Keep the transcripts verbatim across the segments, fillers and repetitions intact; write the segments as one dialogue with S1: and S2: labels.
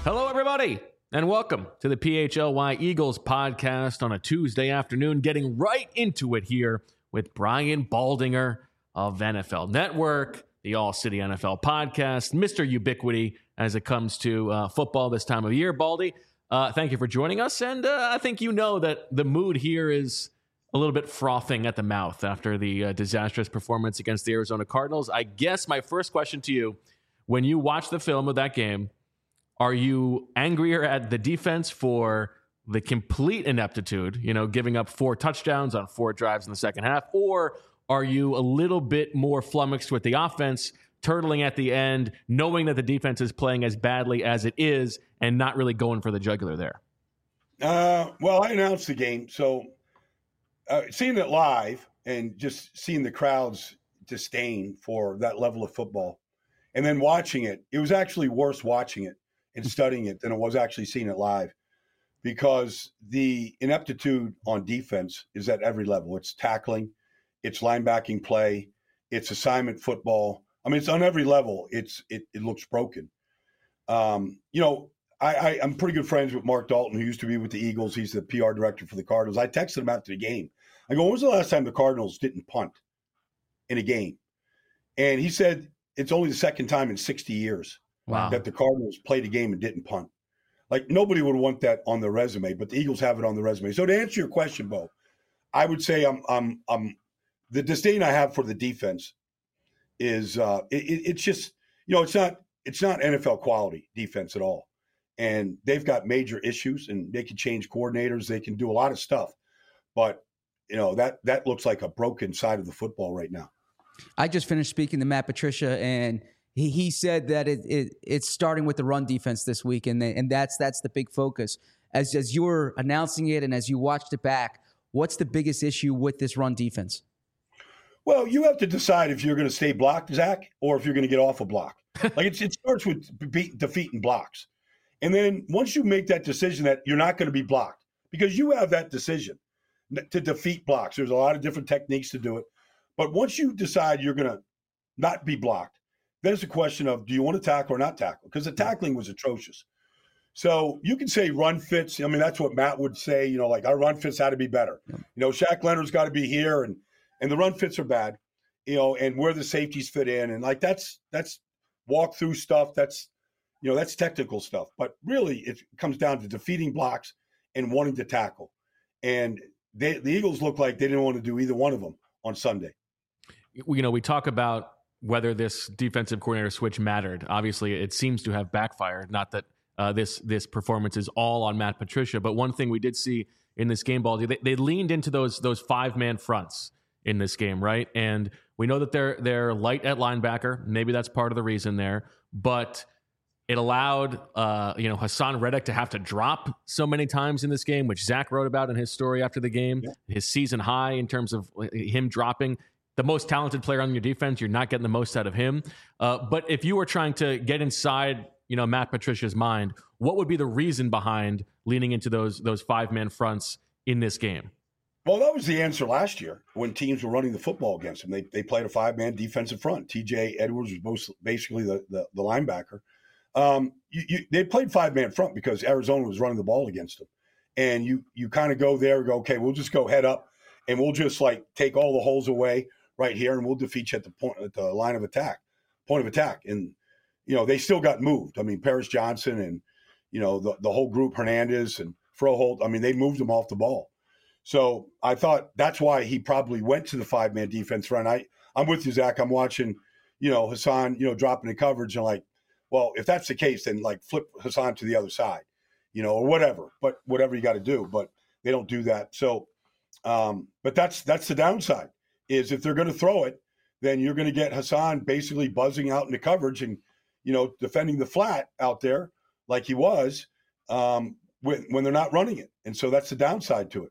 S1: Hello, everybody, and welcome to the P H L Y Eagles podcast on a Tuesday afternoon, getting right into it here with Brian Baldinger of N F L Network, the All City N F L podcast, Mister Ubiquity as it comes to uh, football this time of year. Baldy, uh, thank you for joining us, and uh, I think you know that the mood here is a little bit frothing at the mouth after the uh, disastrous performance against the Arizona Cardinals. I guess my first question to you, when you watch the film of that game, are you angrier at the defense for the complete ineptitude, you know, giving up four touchdowns on four drives in the second half, or are you a little bit more flummoxed with the offense, turtling at the end, knowing that the defense is playing as badly as it is and not really going for the jugular there?
S2: Uh, well, I announced the game, so uh, seeing it live and just seeing the crowd's disdain for that level of football, and then watching it, it was actually worse watching it and studying it than it was actually seeing it live, because the ineptitude on defense is at every level. It's tackling, it's linebacking play, it's assignment football. I mean, it's on every level. It's it, it looks broken. Um, you know, I, I, I'm pretty good friends with Mark Dalton, who used to be with the Eagles. He's the P R director for the Cardinals. I texted him after the game. I go, when was the last time the Cardinals didn't punt in a game? And he said it's only the second time in sixty years. Wow. That the Cardinals played a game and didn't punt. Like, nobody would want that on their resume, but the Eagles have it on the resume. So to answer your question, Bo, I would say I'm, I'm, I'm the disdain I have for the defense is uh, it, it's just, you know, it's not it's not N F L quality defense at all, and they've got major issues, and they can change coordinators, they can do a lot of stuff, but you know that that looks like a broken side of the football right now.
S3: I just finished speaking to Matt Patricia, and He he said that it, it it's starting with the run defense this week, and and that's that's the big focus. As as you were announcing it and as you watched it back, what's the biggest issue with this run defense?
S2: Well, you have to decide if you're going to stay blocked, Zach, or if you're going to get off a block. Like it's, it starts with beat, defeating blocks, and then once you make that decision that you're not going to be blocked, because you have that decision to defeat blocks. There's a lot of different techniques to do it, but once you decide you're going to not be blocked, then it's a question of, do you want to tackle or not tackle? Because the tackling was atrocious. So you can say run fits. I mean, that's what Matt would say, you know, like our run fits had to be better. You know, Shaq Leonard's got to be here, and and the run fits are bad, you know, and where the safeties fit in. And like that's that's walk through stuff. That's, you know, that's technical stuff. But really, it comes down to defeating blocks and wanting to tackle. And they, the Eagles look like they didn't want to do either one of them on Sunday.
S1: You know, we talk about whether this defensive coordinator switch mattered. Obviously, it seems to have backfired. Not that uh, this this performance is all on Matt Patricia, but one thing we did see in this game, Baldy, they, they leaned into those those five man fronts in this game, right? And we know that they're they're light at linebacker. Maybe that's part of the reason there, but it allowed uh, you know Hassan Reddick to have to drop so many times in this game, which Zach wrote about in his story after the game. Yeah. His season high in terms of him dropping. The most talented player on your defense, you're not getting the most out of him. Uh, but if you were trying to get inside, you know, Matt Patricia's mind, what would be the reason behind leaning into those those five-man fronts in this game?
S2: Well, that was the answer last year when teams were running the football against them. They they played a five-man defensive front. T J Edwards was most, basically the, the, the linebacker. Um, you, you, they played five-man front because Arizona was running the ball against them. And you you kind of go there and go, okay, we'll just go head up, and we'll just, like, take all the holes away right here, and we'll defeat you at the point, at the line of attack, point of attack. And, you know, they still got moved. I mean, Paris Johnson and, you know, the, the whole group, Hernandez and Froholt, I mean, they moved them off the ball. So I thought that's why he probably went to the five-man defense front. I, I'm with you, Zach. I'm watching, you know, Hassan, you know, dropping the coverage and like, well, if that's the case, then like flip Hassan to the other side, you know, or whatever, but whatever you got to do. But they don't do that. So, um, but that's that's the downside. Is if they're going to throw it, then you're going to get Hassan basically buzzing out into coverage and, you know, defending the flat out there like he was um, when, when they're not running it. And so that's the downside to it.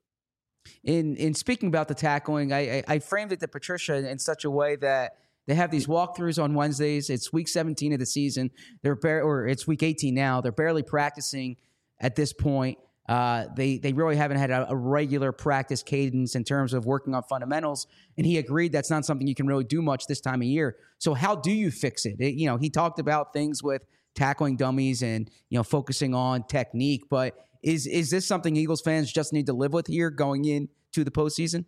S3: In in speaking about the tackling, I, I, I framed it to Patricia in such a way that they have these walkthroughs on Wednesdays. It's week seventeen of the season. They're bar- or it's week eighteen now. They're barely practicing at this point. Uh, they they really haven't had a, a regular practice cadence in terms of working on fundamentals, and he agreed that's not something you can really do much this time of year. So how do you fix it? it you know, he talked about things with tackling dummies and, you know, focusing on technique. But is is this something Eagles fans just need to live with here going into the postseason?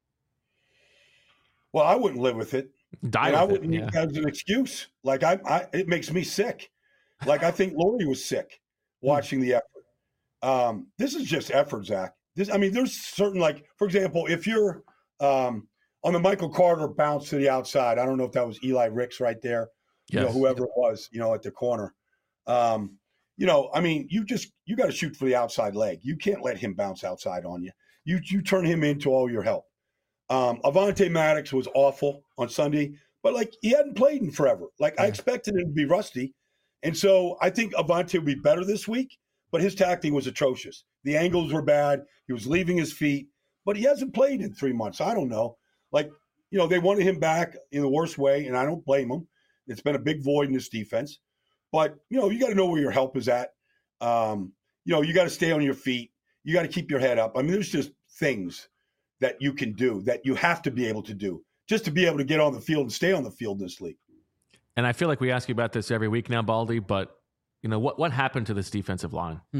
S2: Well, I wouldn't live with it.
S1: Die
S2: and
S1: with
S2: I wouldn't
S1: it,
S2: use
S1: yeah.
S2: it as an excuse. Like I, I, it makes me sick. Like I think Lori was sick watching the effort. Um, this is just effort, Zach. This, I mean, there's certain, like, for example, if you're um, on the Michael Carter bounce to the outside, I don't know if that was Eli Ricks right there, you
S1: Yes.
S2: know, whoever it was, you know, at the corner. Um, you know, I mean, you just you got to shoot for the outside leg. You can't let him bounce outside on you. You you turn him into all your help. Um, Avonte Maddox was awful on Sunday, but like he hadn't played in forever. Like yeah. I expected him to be rusty, and so I think Avonte will be better this week. But his tackling was atrocious. The angles were bad. He was leaving his feet, but he hasn't played in three months. I don't know. Like, you know, they wanted him back in the worst way, and I don't blame him. It's been a big void in this defense. But, you know, you got to know where your help is at. Um, you know, you got to stay on your feet. You got to keep your head up. I mean, there's just things that you can do that you have to be able to do just to be able to get on the field and stay on the field in this league.
S1: And I feel like we ask you about this every week now, Baldy, but you know, what, what happened to this defensive line?
S3: Hmm.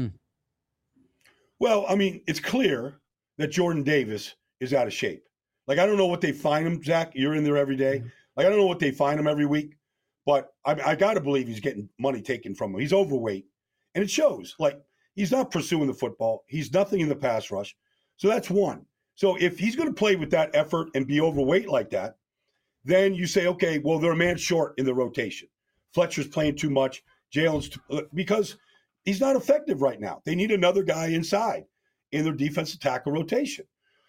S2: Well, I mean, it's clear that Jordan Davis is out of shape. Like, I don't know what they find him, Zach. You're in there every day. Like, I don't know what they find him every week, but I, I got to believe he's getting money taken from him. He's overweight, and it shows. Like, he's not pursuing the football. He's nothing in the pass rush. So that's one. So if he's going to play with that effort and be overweight like that, then you say, okay, well, they're a man short in the rotation. Fletcher's playing too much. Jalen's too, because he's not effective right now. They need another guy inside in their defensive tackle rotation.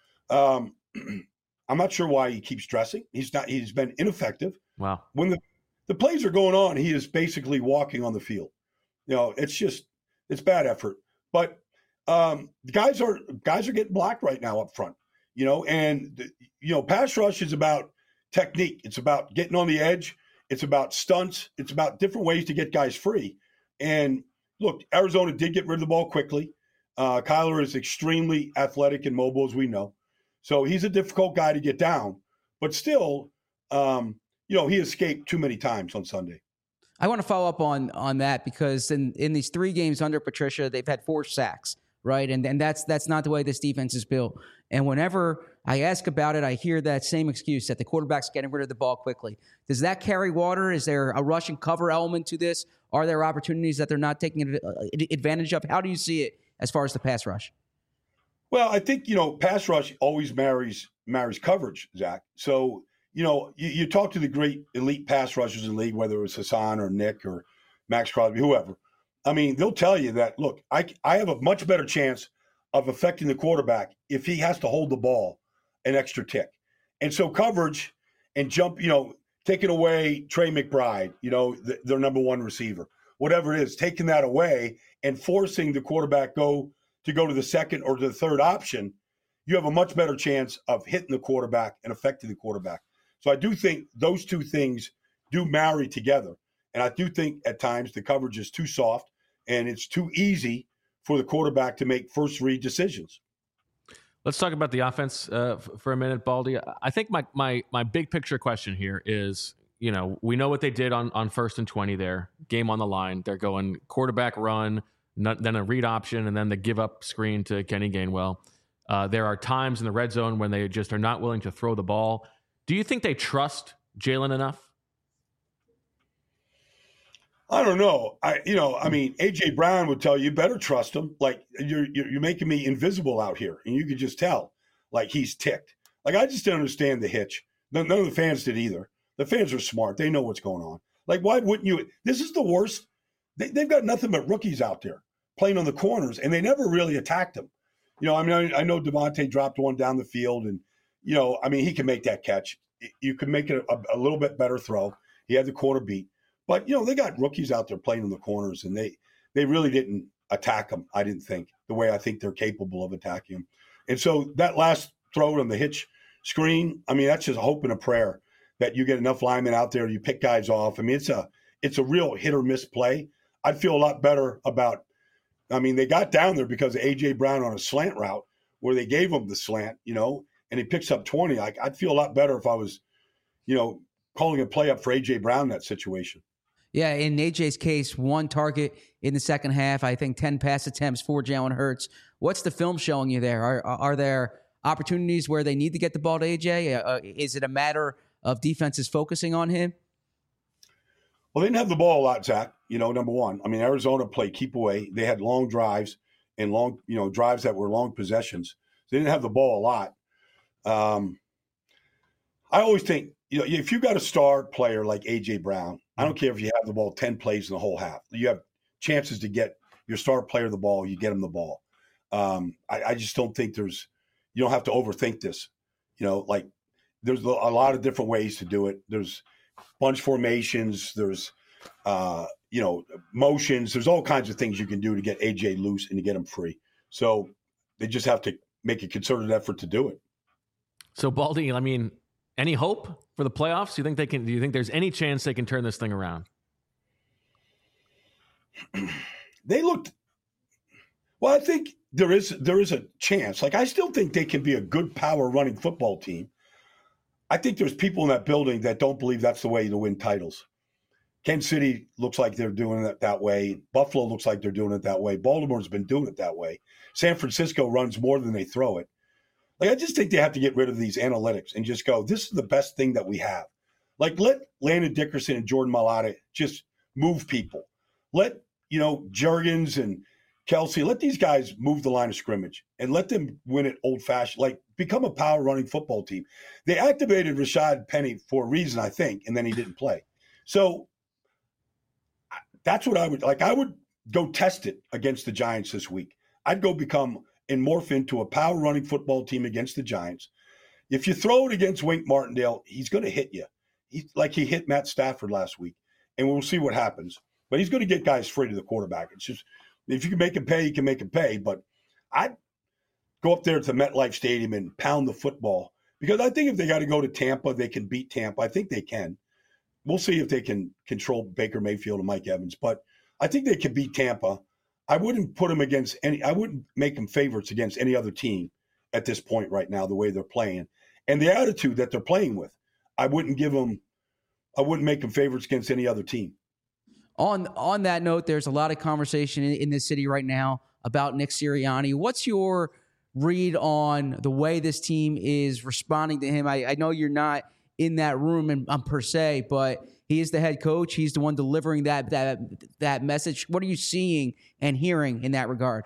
S2: Um, I'm not sure why he keeps dressing. He's not. He's been ineffective.
S1: Wow.
S2: When the, the plays are going on, he is basically walking on the field. You know, it's just it's bad effort. But um, guys are guys are getting blocked right now up front. You know, and the, you know, pass rush is about technique. It's about getting on the edge. It's about stunts. It's about different ways to get guys free. And look, Arizona did get rid of the ball quickly. Uh, Kyler is extremely athletic and mobile, as we know. So he's a difficult guy to get down. But still, um, you know, he escaped too many times on Sunday.
S3: I want to follow up on on that because in, in these three games under Patricia, they've had four sacks, right? And and that's that's not the way this defense is built. And whenever I ask about it, I hear that same excuse that the quarterback's getting rid of the ball quickly. Does that carry water? Is there a rush and cover element to this? Are there opportunities that they're not taking advantage of? How do you see it as far as the pass rush?
S2: Well, I think, you know, pass rush always marries marries coverage, Zach. So, you know, you, you talk to the great elite pass rushers in the league, whether it's Hassan or Nick or Max Crosby, whoever. I mean, they'll tell you that, look, I, I have a much better chance of affecting the quarterback if he has to hold the ball an extra tick. And so coverage and jump, you know, taking away Trey McBride, you know, the, their number one receiver, whatever it is, taking that away and forcing the quarterback go to go to the second or to the third option, you have a much better chance of hitting the quarterback and affecting the quarterback. So I do think those two things do marry together. And I do think at times the coverage is too soft and it's too easy for the quarterback to make first read decisions.
S1: Let's talk about the offense uh, f- for a minute, Baldy. I think my, my my big picture question here is, you know, we know what they did on, on first and twenty there, game on the line. They're going quarterback run, not, then a read option, and then the give up screen to Kenny Gainwell. Uh, there are times in the red zone when they just are not willing to throw the ball. Do you think they trust Jalen enough?
S2: I don't know. I, you know, I mean, A J Brown would tell you, you better trust him. Like you're, you're, you're making me invisible out here. And you could just tell, like he's ticked. Like, I just didn't understand the hitch. None, none of the fans did either. The fans are smart. They know what's going on. Like, why wouldn't you? This is the worst. They, they've got nothing but rookies out there playing on the corners, and they never really attacked them. You know, I mean, I, I know Devontae dropped one down the field, and, you know, I mean, he can make that catch. You can make it a, a little bit better throw. He had the corner beat. But, you know, they got rookies out there playing in the corners, and they they really didn't attack them, I didn't think, the way I think they're capable of attacking them. And so that last throw on the hitch screen, I mean, that's just a hope and a prayer that you get enough linemen out there, you pick guys off. I mean, it's a it's a real hit or miss play. I'd feel a lot better about – I mean, they got down there because of A J Brown on a slant route where they gave him the slant, you know, and he picks up twenty. Like, I'd feel a lot better if I was, you know, calling a play up for A J Brown in that situation.
S3: Yeah, in A J's case, one target in the second half. I think ten pass attempts for Jalen Hurts. What's the film showing you there? Are are there opportunities where they need to get the ball to A J? Uh, is it a matter of defenses focusing on him?
S2: Well, they didn't have the ball a lot, Zach. You know, number one. I mean, Arizona played keep away. They had long drives and long, you know, drives that were long possessions. They didn't have the ball a lot. Um, I always think, you know, if you got a star player like A J Brown, I don't care if you have the ball ten plays in the whole half. You have chances to get your star player the ball. You get him the ball. Um, I, I just don't think there's – you don't have to overthink this. You know, like there's a lot of different ways to do it. There's bunch formations. There's, uh, you know, motions. There's all kinds of things you can do to get A J loose and to get him free. So they just have to make a concerted effort to do it.
S1: So, Baldy, I mean, any hope for the playoffs? Do you think they can? Do you think there's any chance they can turn this thing around?
S2: They looked. Well, I think there is there is a chance. Like, I still think they can be a good power running football team. I think there's people in that building that don't believe that's the way to win titles. Kansas City looks like they're doing it that way. Buffalo looks like they're doing it that way. Baltimore's been doing it that way. San Francisco runs more than they throw it. Like, I just think they have to get rid of these analytics and just go, this is the best thing that we have. Like, let Landon Dickerson and Jordan Mailata just move people. Let, you know, Jurgens and Kelsey, let these guys move the line of scrimmage and let them win it old-fashioned. Like, become a power-running football team. They activated Rashad Penny for a reason, I think, and then he didn't play. So that's what I would – like, I would go test it against the Giants this week. I'd go become – and morph into a power-running football team against the Giants. If you throw it against Wink Martindale, he's going to hit you. He, like he hit Matt Stafford last week, and we'll see what happens. But he's going to get guys free to the quarterback. It's just if you can make him pay, you can make him pay. But I'd go up there to MetLife Stadium and pound the football because I think if they got to go to Tampa, they can beat Tampa. I think they can. We'll see if they can control Baker Mayfield and Mike Evans. But I think they can beat Tampa. I wouldn't put them against any – I wouldn't make them favorites against any other team at this point right now, the way they're playing. And the attitude that they're playing with, I wouldn't give them – I wouldn't make them favorites against any other team.
S3: On on that note, there's a lot of conversation in, in this city right now about Nick Sirianni. What's your read on the way this team is responding to him? I, I know you're not in that room and um, per se, but – he is the head coach. He's the one delivering that that that message. What are you seeing and hearing in that regard?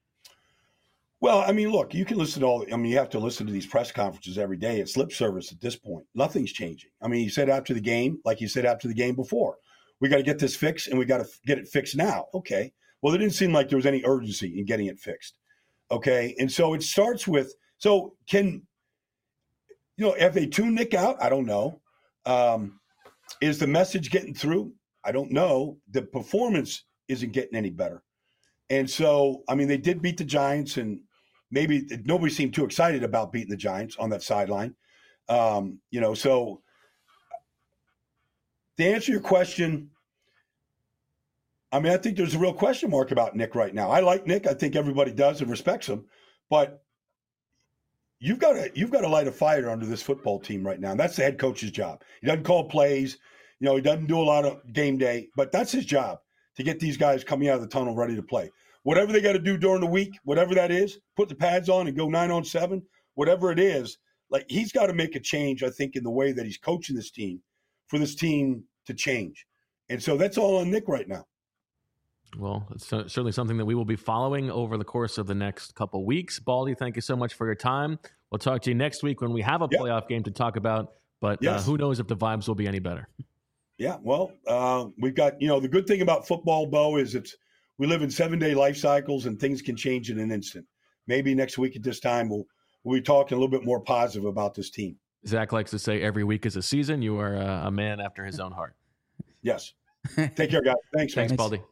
S2: Well, I mean, look, you can listen to all – I mean, you have to listen to these press conferences every day. It's lip service at this point. Nothing's changing. I mean, he said after the game, like he said after the game before, we got to get this fixed and we got to get it fixed now. Okay. Well, it didn't seem like there was any urgency in getting it fixed. Okay. And so it starts with – so can – you know, have they tuned Nick out? I don't know. Um Is the message getting through? I don't know. The performance isn't getting any better. And so, I mean, they did beat the Giants, and maybe nobody seemed too excited about beating the Giants on that sideline. Um, you know, so to answer your question, I mean, I think there's a real question mark about Nick right now. I like Nick. I think everybody does and respects him. But You've got to you've got to light a fire under this football team right now. And that's the head coach's job. He doesn't call plays. You know, he doesn't do a lot of game day, but that's his job to get these guys coming out of the tunnel ready to play. Whatever they got to do during the week, whatever that is, put the pads on and go nine on seven, whatever it is, like he's got to make a change, I think, in the way that he's coaching this team for this team to change. And so that's all on Nick right now.
S1: Well, it's certainly something that we will be following over the course of the next couple weeks. Baldy, thank you so much for your time. We'll talk to you next week when we have a yep. playoff game to talk about, but yes. uh, who knows if the vibes will be any better.
S2: Yeah, well, uh, we've got, you know, the good thing about football, Bo, is it's we live in seven-day life cycles and things can change in an instant. Maybe next week at this time we'll, we'll be talking a little bit more positive about this team.
S1: Zach likes to say every week is a season. You are a, a man after his own heart.
S2: Yes. Take care, guys. Thanks,
S1: Thanks,
S2: man.
S1: Baldy.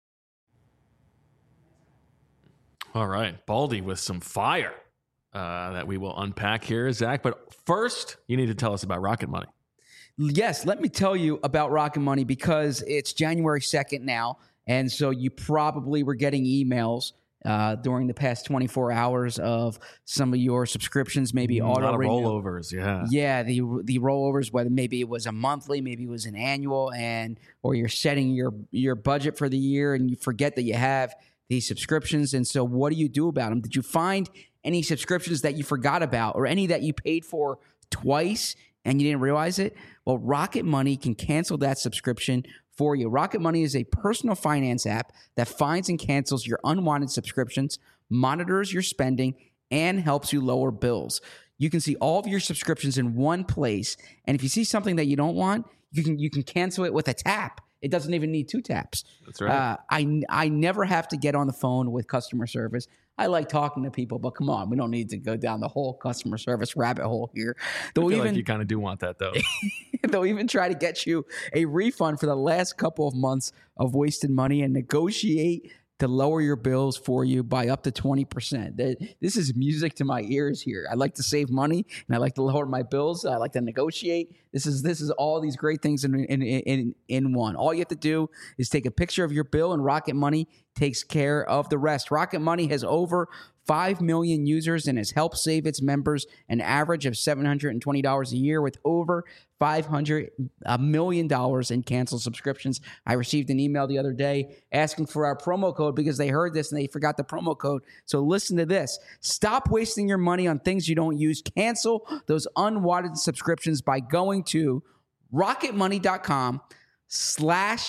S1: All right, Baldy with some fire uh, that we will unpack here, Zach. But first, you need to tell us about Rocket Money.
S3: Yes, let me tell you about Rocket Money because it's January second now, and so you probably were getting emails uh, during the past twenty-four hours of some of your subscriptions, maybe
S1: Mm, a
S3: auto
S1: lot of
S3: renew.
S1: rollovers, yeah.
S3: Yeah, the the rollovers, whether maybe it was a monthly, maybe it was an annual, and or you're setting your your budget for the year and you forget that you have these subscriptions. And so what do you do about them? Did you find any subscriptions that you forgot about or any that you paid for twice and you didn't realize it? Well, Rocket Money can cancel that subscription for you. Rocket Money is a personal finance app that finds and cancels your unwanted subscriptions, monitors your spending, and helps you lower bills. You can see all of your subscriptions in one place, and if you see something that you don't want, you can you can cancel it with a tap. It doesn't even need two taps.
S1: That's right.
S3: Uh, I I never have to get on the phone with customer service. I like talking to people, but come on, we don't need to go down the whole customer service rabbit hole here. They'll
S1: I feel
S3: even
S1: like you kind of do want that, though.
S3: they'll even try to get you a refund for the last couple of months of wasted money and negotiate to lower your bills for you by up to twenty percent. This is music to my ears here. I like to save money and I like to lower my bills. I like to negotiate. This is this is all these great things in in in, in one. All you have to do is take a picture of your bill and Rocket Money takes care of the rest. Rocket Money has over five million users and has helped save its members an average of seven hundred twenty dollars a year with over five hundred million dollars in canceled subscriptions. I received an email the other day asking for our promo code because they heard this and they forgot the promo code. So listen to this. Stop wasting your money on things you don't use. Cancel those unwanted subscriptions by going to rocketmoney.com slash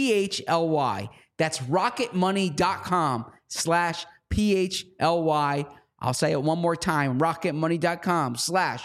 S3: PHLY. That's rocketmoney.com slash P-H-L-Y. I'll say it one more time. rocketmoney.com slash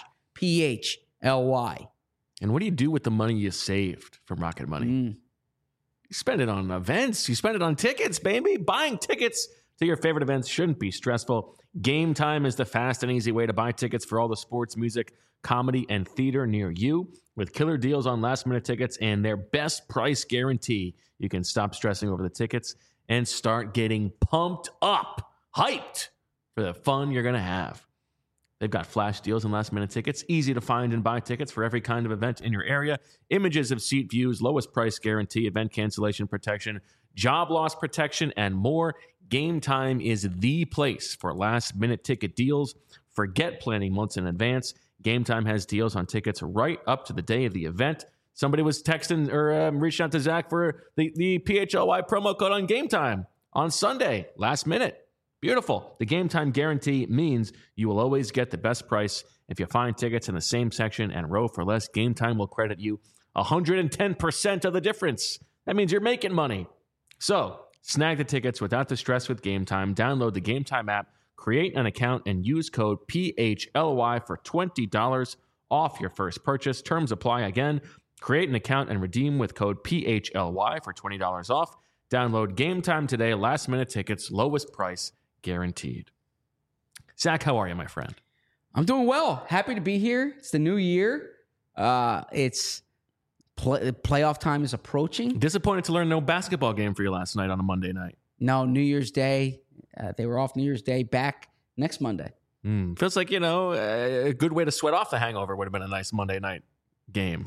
S3: P-H-L-Y.
S1: And what do you do with the money you saved from Rocket Money?
S3: Mm.
S1: You spend it on events. You spend it on tickets, baby. Buying tickets to your favorite events shouldn't be stressful. Game Time is the fast and easy way to buy tickets for all the sports, music, comedy, and theater near you. With killer deals on last-minute tickets and their best price guarantee, you can stop stressing over the tickets and start getting pumped up, hyped for the fun you're going to have. They've got flash deals and last-minute tickets, easy to find and buy tickets for every kind of event in your area, images of seat views, lowest price guarantee, event cancellation protection, job loss protection, and more. Game Time is the place for last-minute ticket deals. Forget planning months in advance. Game Time has deals on tickets right up to the day of the event. Somebody was texting or um, reaching out to Zach for the, the P H L Y promo code on Game Time on Sunday, last minute. Beautiful. The Game Time guarantee means you will always get the best price. If you find tickets in the same section and row for less, Game Time will credit you one hundred ten percent of the difference. That means you're making money. So snag the tickets without the stress with Game Time. Download the Game Time app, create an account, and use code P H L Y for twenty dollars off your first purchase. Terms apply. Again, create an account and redeem with code P H L Y for twenty dollars off. Download Game Time today. Last minute tickets, lowest price guaranteed. Zach, how are you, my friend?
S3: I'm doing well. Happy to be here. It's the new year. Uh, it's play, playoff time is approaching.
S1: Disappointed to learn no basketball game for you last night on a Monday night.
S3: No, New Year's Day. Uh, they were off New Year's Day, back next Monday.
S1: Mm, feels like, you know, a good way to sweat off the hangover would have been a nice Monday night game.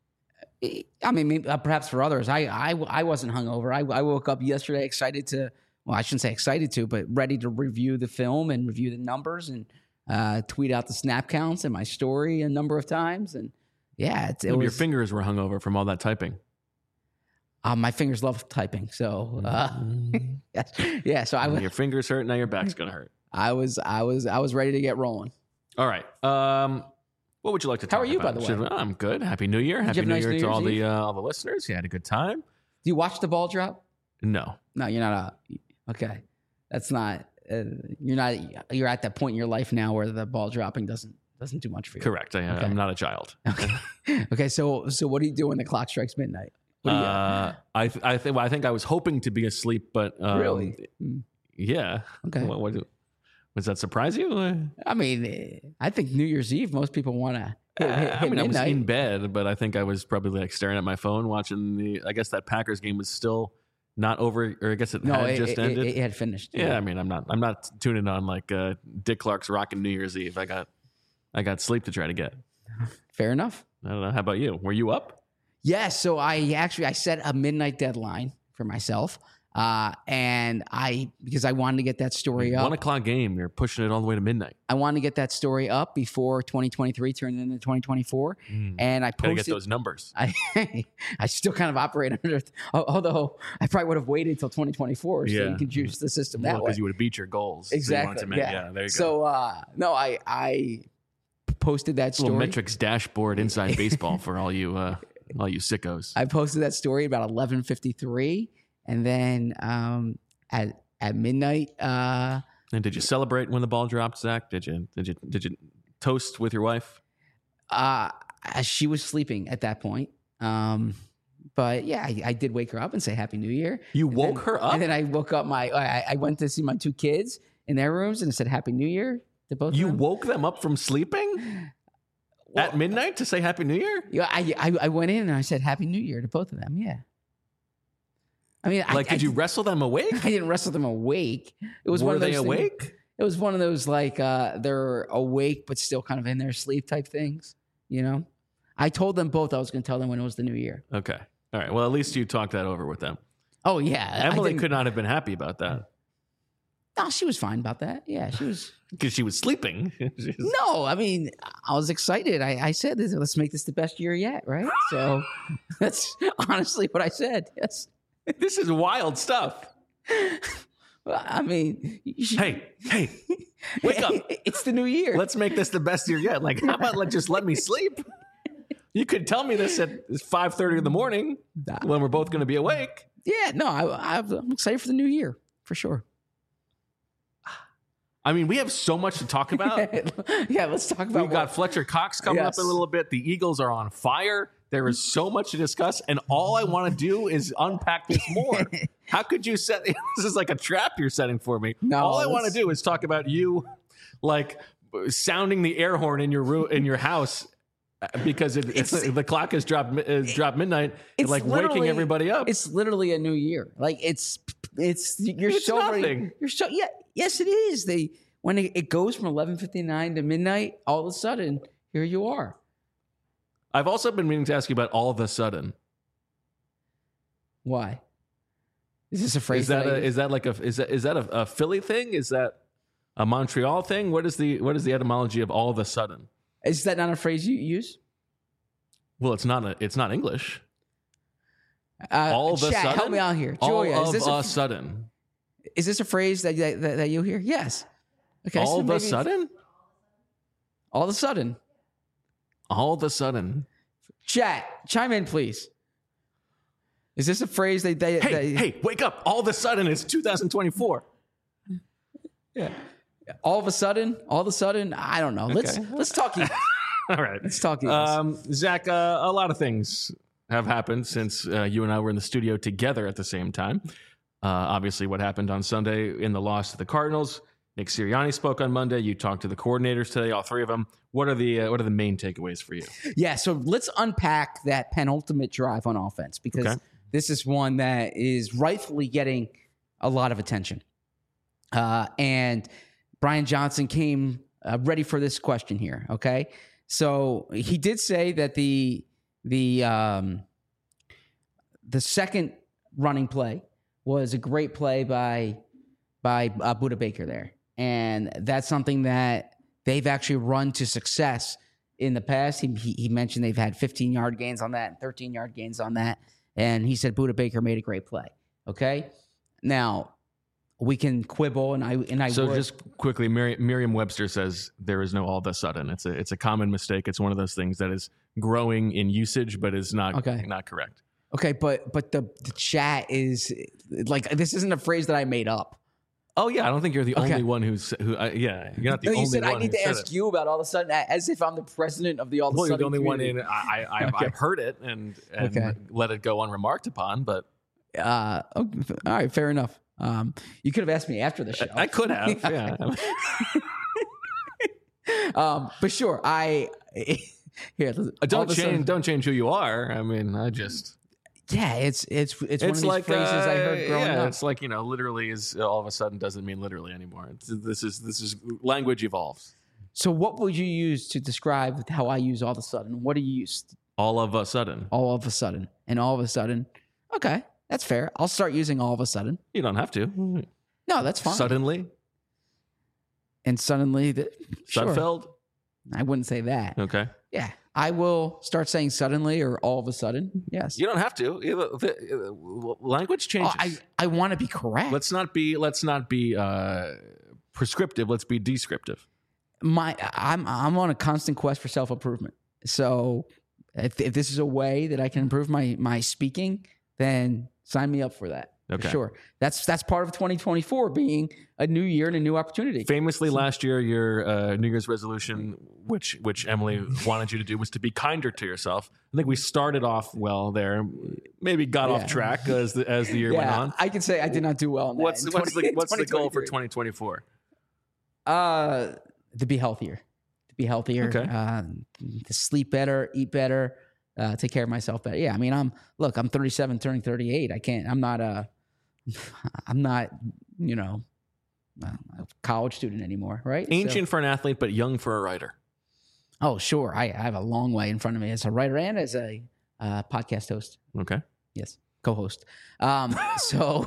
S3: I mean, maybe, uh, perhaps for others. I, I, I wasn't hungover. I, I woke up yesterday excited to, well, I shouldn't say excited to, but ready to review the film and review the numbers and uh, tweet out the snap counts in my story a number of times. And yeah, it, it
S1: Maybe
S3: was,
S1: your fingers were hungover from all that typing.
S3: Uh, my fingers love typing. So, uh, yes. yeah. So I was,
S1: Your fingers hurt, now your back's going to hurt.
S3: I was, I was, I was ready to get rolling.
S1: All right. Um, what would you like to talk
S3: How are you,
S1: about?
S3: by the way?
S1: Should- oh, I'm good. Happy New Year.
S3: Did you
S1: Happy
S3: have a
S1: New
S3: nice
S1: Year
S3: New
S1: to all
S3: Year's
S1: the
S3: Eve?
S1: uh, all the listeners. You had a good time?
S3: Do you watch the ball drop?
S1: No.
S3: No, you're not a, okay. That's not, uh, you're not, you're at that point in your life now where the ball dropping doesn't, doesn't do much for you.
S1: Correct. I,
S3: Okay.
S1: I'm not a child.
S3: Okay. Okay. So, so what do you do when the clock strikes midnight? What do you
S1: Uh, I th- I think well, I think I was hoping to be asleep, but um,
S3: Really? Mm.
S1: yeah.
S3: Okay.
S1: What, what, does that surprise you? Uh,
S3: I mean, eh, I think New Year's Eve, most people want to hit, hit, hit
S1: I mean, I was
S3: midnight.
S1: in bed, but I think I was probably like staring at my phone, watching the. I guess that Packers game was still not over, or I guess it
S3: no,
S1: had
S3: it,
S1: just
S3: it,
S1: ended.
S3: It, it had finished.
S1: yeah, I mean, I'm not. I'm not tuning on like uh, Dick Clark's rocking New Year's Eve. I got, I got sleep to try to get.
S3: Fair enough.
S1: I don't know. How about you? Were you up?
S3: Yes. So I actually, I set a midnight deadline for myself. Uh, and I, because I wanted to get that story up.
S1: One o'clock game, you're pushing it all the way to midnight.
S3: I wanted to get that story up before twenty twenty-three turned into twenty twenty-four.
S1: Mm.
S3: And I
S1: Gotta
S3: posted.
S1: get those numbers.
S3: I, I still kind of operate under, although I probably would have waited until twenty twenty-four so
S1: Yeah.
S3: you can juice the system that
S1: Well,
S3: way.
S1: because you would have beat your goals. that you
S3: Exactly.
S1: wanted to make.
S3: yeah.
S1: yeah, there you go.
S3: So, uh, no, I, I posted that
S1: little
S3: story.
S1: metrics dashboard inside baseball for all you uh, all you sickos.
S3: I posted that story about eleven fifty-three. And then um, at, at midnight, uh,
S1: And did you celebrate when the ball dropped, Zach? Did you did you did you toast with your wife?
S3: uh, she was sleeping at that point. Um, but yeah, I, I did wake her up and say Happy New Year.
S1: You
S3: And
S1: woke
S3: then-
S1: her up.
S3: And then I woke up my, I, I went to see my two kids in their rooms and I said Happy New Year to both
S1: You
S3: of them.
S1: woke them up from sleeping
S3: Well,
S1: at midnight to say Happy New Year.
S3: Yeah, I, I I went in and I said Happy New Year to both of them. Yeah. I mean,
S1: Like,
S3: I,
S1: did
S3: I,
S1: you wrestle them awake?
S3: I didn't wrestle them awake. It was
S1: Were
S3: one of those
S1: they
S3: things-
S1: awake?
S3: It was one of those like uh, they're awake but still kind of in their sleep type things. You know, I told them both I was going to tell them when it was the new year.
S1: Okay. All right. Well, at least you talked that over with them.
S3: Oh yeah, I
S1: Emily
S3: didn't-
S1: could not have been happy about that
S3: No, she was fine about that. Yeah, she was.
S1: because she was sleeping. She's-
S3: No, I mean, I was excited. I, I said, "Let's make this the best year yet," right? So that's honestly what I said. Yes.
S1: This is wild stuff.
S3: Well, I mean, you should-
S1: Hey, hey, wake up.
S3: It's the new year.
S1: Let's make this the best year yet. Like, how about let just let me sleep? You could tell me this at five thirty in the morning
S3: Nah.
S1: when we're both going to be awake.
S3: Yeah, no, I, I'm excited for the new year for sure.
S1: I mean, we have so much to talk about.
S3: Yeah, let's talk about
S1: We've got
S3: what-
S1: Fletcher Cox coming
S3: Yes.
S1: up in a little bit. The Eagles are on fire. There is so much to discuss, and all I want to do is unpack this more. How could you set this is like a trap you're setting for me?
S3: No,
S1: all I want to
S3: let's-
S1: do is talk about you, like sounding the air horn in your room in your house uh, because it, it's,
S3: It's-
S1: the clock has dropped mi- has dropped midnight, and
S3: It's
S1: like waking
S3: literally-
S1: everybody up.
S3: It's literally a new year. Like it's it's you're
S1: It's
S3: so
S1: nothing.
S3: You're so yeah. Yes, it is. They when it, it goes from eleven fifty nine to midnight, all of a sudden here you are.
S1: I've also been meaning to ask you about all of a sudden.
S3: Why? Is this a phrase?
S1: Is that
S3: I
S1: a,
S3: use?
S1: is that like a is that is that a, a Philly thing? Is that a Montreal thing? What is the what is the etymology of all of a sudden?
S3: Is that not a phrase you use?
S1: Well, it's not a, it's not English.
S3: Uh,
S1: All of a
S3: chat, help
S1: sudden?
S3: me out here,
S1: All
S3: Julia. Is
S1: of
S3: this
S1: a
S3: a,
S1: sudden.
S3: is this a phrase that that, that you hear? Yes. Okay.
S1: All
S3: so
S1: of a
S3: maybe-
S1: sudden.
S3: All of a sudden.
S1: All of a sudden.
S3: Chat, chime in, please. Is this a phrase that they?
S1: Hey,
S3: that,
S1: hey, wake up! All of a sudden, it's two thousand twenty-four.
S3: Yeah. All of a sudden, all of a sudden, I don't know. Let's
S1: Okay.
S3: let's talk Eagles.
S1: All right,
S3: Let's talk Eagles.
S1: um, Zach. Uh, a lot of things have happened since uh, you and I were in the studio together at the same time. Uh, obviously, what happened on Sunday in the loss to the Cardinals. Nick Sirianni spoke on Monday. You talked to the coordinators today, all three of them. What are the uh, what are the main takeaways for you?
S3: Yeah, so let's unpack that penultimate drive on offense because
S1: Okay.
S3: this is one that is rightfully getting a lot of attention. Uh, and Brian Johnson came uh, ready for this question here. Okay, so he did say that the the um, the second running play was a great play by by uh, Budda Baker there, and that's something that they've actually run to success in the past. He, he, he mentioned they've had fifteen yard gains on that, thirteen yard gains on that. And he said Budda Baker made a great play. Okay. Now we can quibble and I, and I,
S1: So
S3: would.
S1: just quickly, Mer- Merriam-Webster says there is no all of a sudden. It's a it's a common mistake. It's one of those things that is growing in usage, but is not
S3: Okay.
S1: not correct.
S3: okay. But, but the, the chat is like, this isn't a phrase that I made up.
S1: Oh yeah, I don't think you're the
S3: Okay.
S1: only one who's who. Uh, yeah, you're not the
S3: No, you
S1: only
S3: said
S1: one.
S3: I need
S1: who
S3: to
S1: said
S3: ask
S1: it.
S3: you about all of a sudden as if I'm the president of the all of a
S1: Well, you're
S3: sudden
S1: the only one
S3: community.
S1: in. I, I I've,
S3: Okay.
S1: I've heard it and and
S3: Okay.
S1: let it go unremarked upon, but
S3: Uh, oh, all right, fair enough. Um, you could have asked me after the show.
S1: I could have. Yeah.
S3: um, but sure, I here. all
S1: Uh, don't
S3: of a sudden-
S1: change. Don't change who you are. I mean, I just.
S3: Yeah, it's it's it's, one of
S1: It's
S3: these
S1: like
S3: phrases
S1: uh,
S3: I heard growing
S1: yeah,
S3: up.
S1: it's like you know, literally is all of a sudden doesn't mean literally anymore. It's, this is this is language evolves.
S3: So, what would you use to describe how I use all of a sudden? What do you use?
S1: All of a sudden.
S3: All of a sudden, and all of a sudden. Okay, That's fair. I'll start using all of a sudden.
S1: You don't have to.
S3: No, that's fine.
S1: Suddenly.
S3: And suddenly, the, sure.
S1: Sudfeld?
S3: I wouldn't say that.
S1: Okay.
S3: Yeah. I will start saying suddenly or all of a sudden. Yes.
S1: You don't have to. The language changes.
S3: Oh, I, I want to be correct.
S1: Let's not be let's not be uh, prescriptive. Let's be descriptive.
S3: My I'm I'm on a constant quest for self-improvement. So if, if this is a way that I can improve my my speaking, then sign me up for that.
S1: Okay.
S3: For sure. That's that's part of twenty twenty-four being a new year and a new opportunity.
S1: Famously, last year, your uh, New Year's resolution, which which Emily wanted you to do, was to be kinder to yourself. I think we started off well there, maybe got yeah. off track as the as the year
S3: yeah,
S1: went on.
S3: I can say I did not do well in that.
S1: What's
S3: in
S1: what's
S3: twenty,
S1: the what's the goal for twenty twenty-four?
S3: Uh, to be healthier, to be healthier,
S1: okay.
S3: uh, to sleep better, eat better, uh, take care of myself better. Yeah, I mean, I'm look, I'm thirty-seven, turning thirty-eight. I can't. I'm not a. I'm not, you know, a college student anymore, right?
S1: Ancient
S3: so,
S1: for an athlete, but young for a writer.
S3: Oh, sure. I, I have a long way in front of me as a writer and as a uh, podcast host.
S1: Okay.
S3: Yes, co-host. Um, so,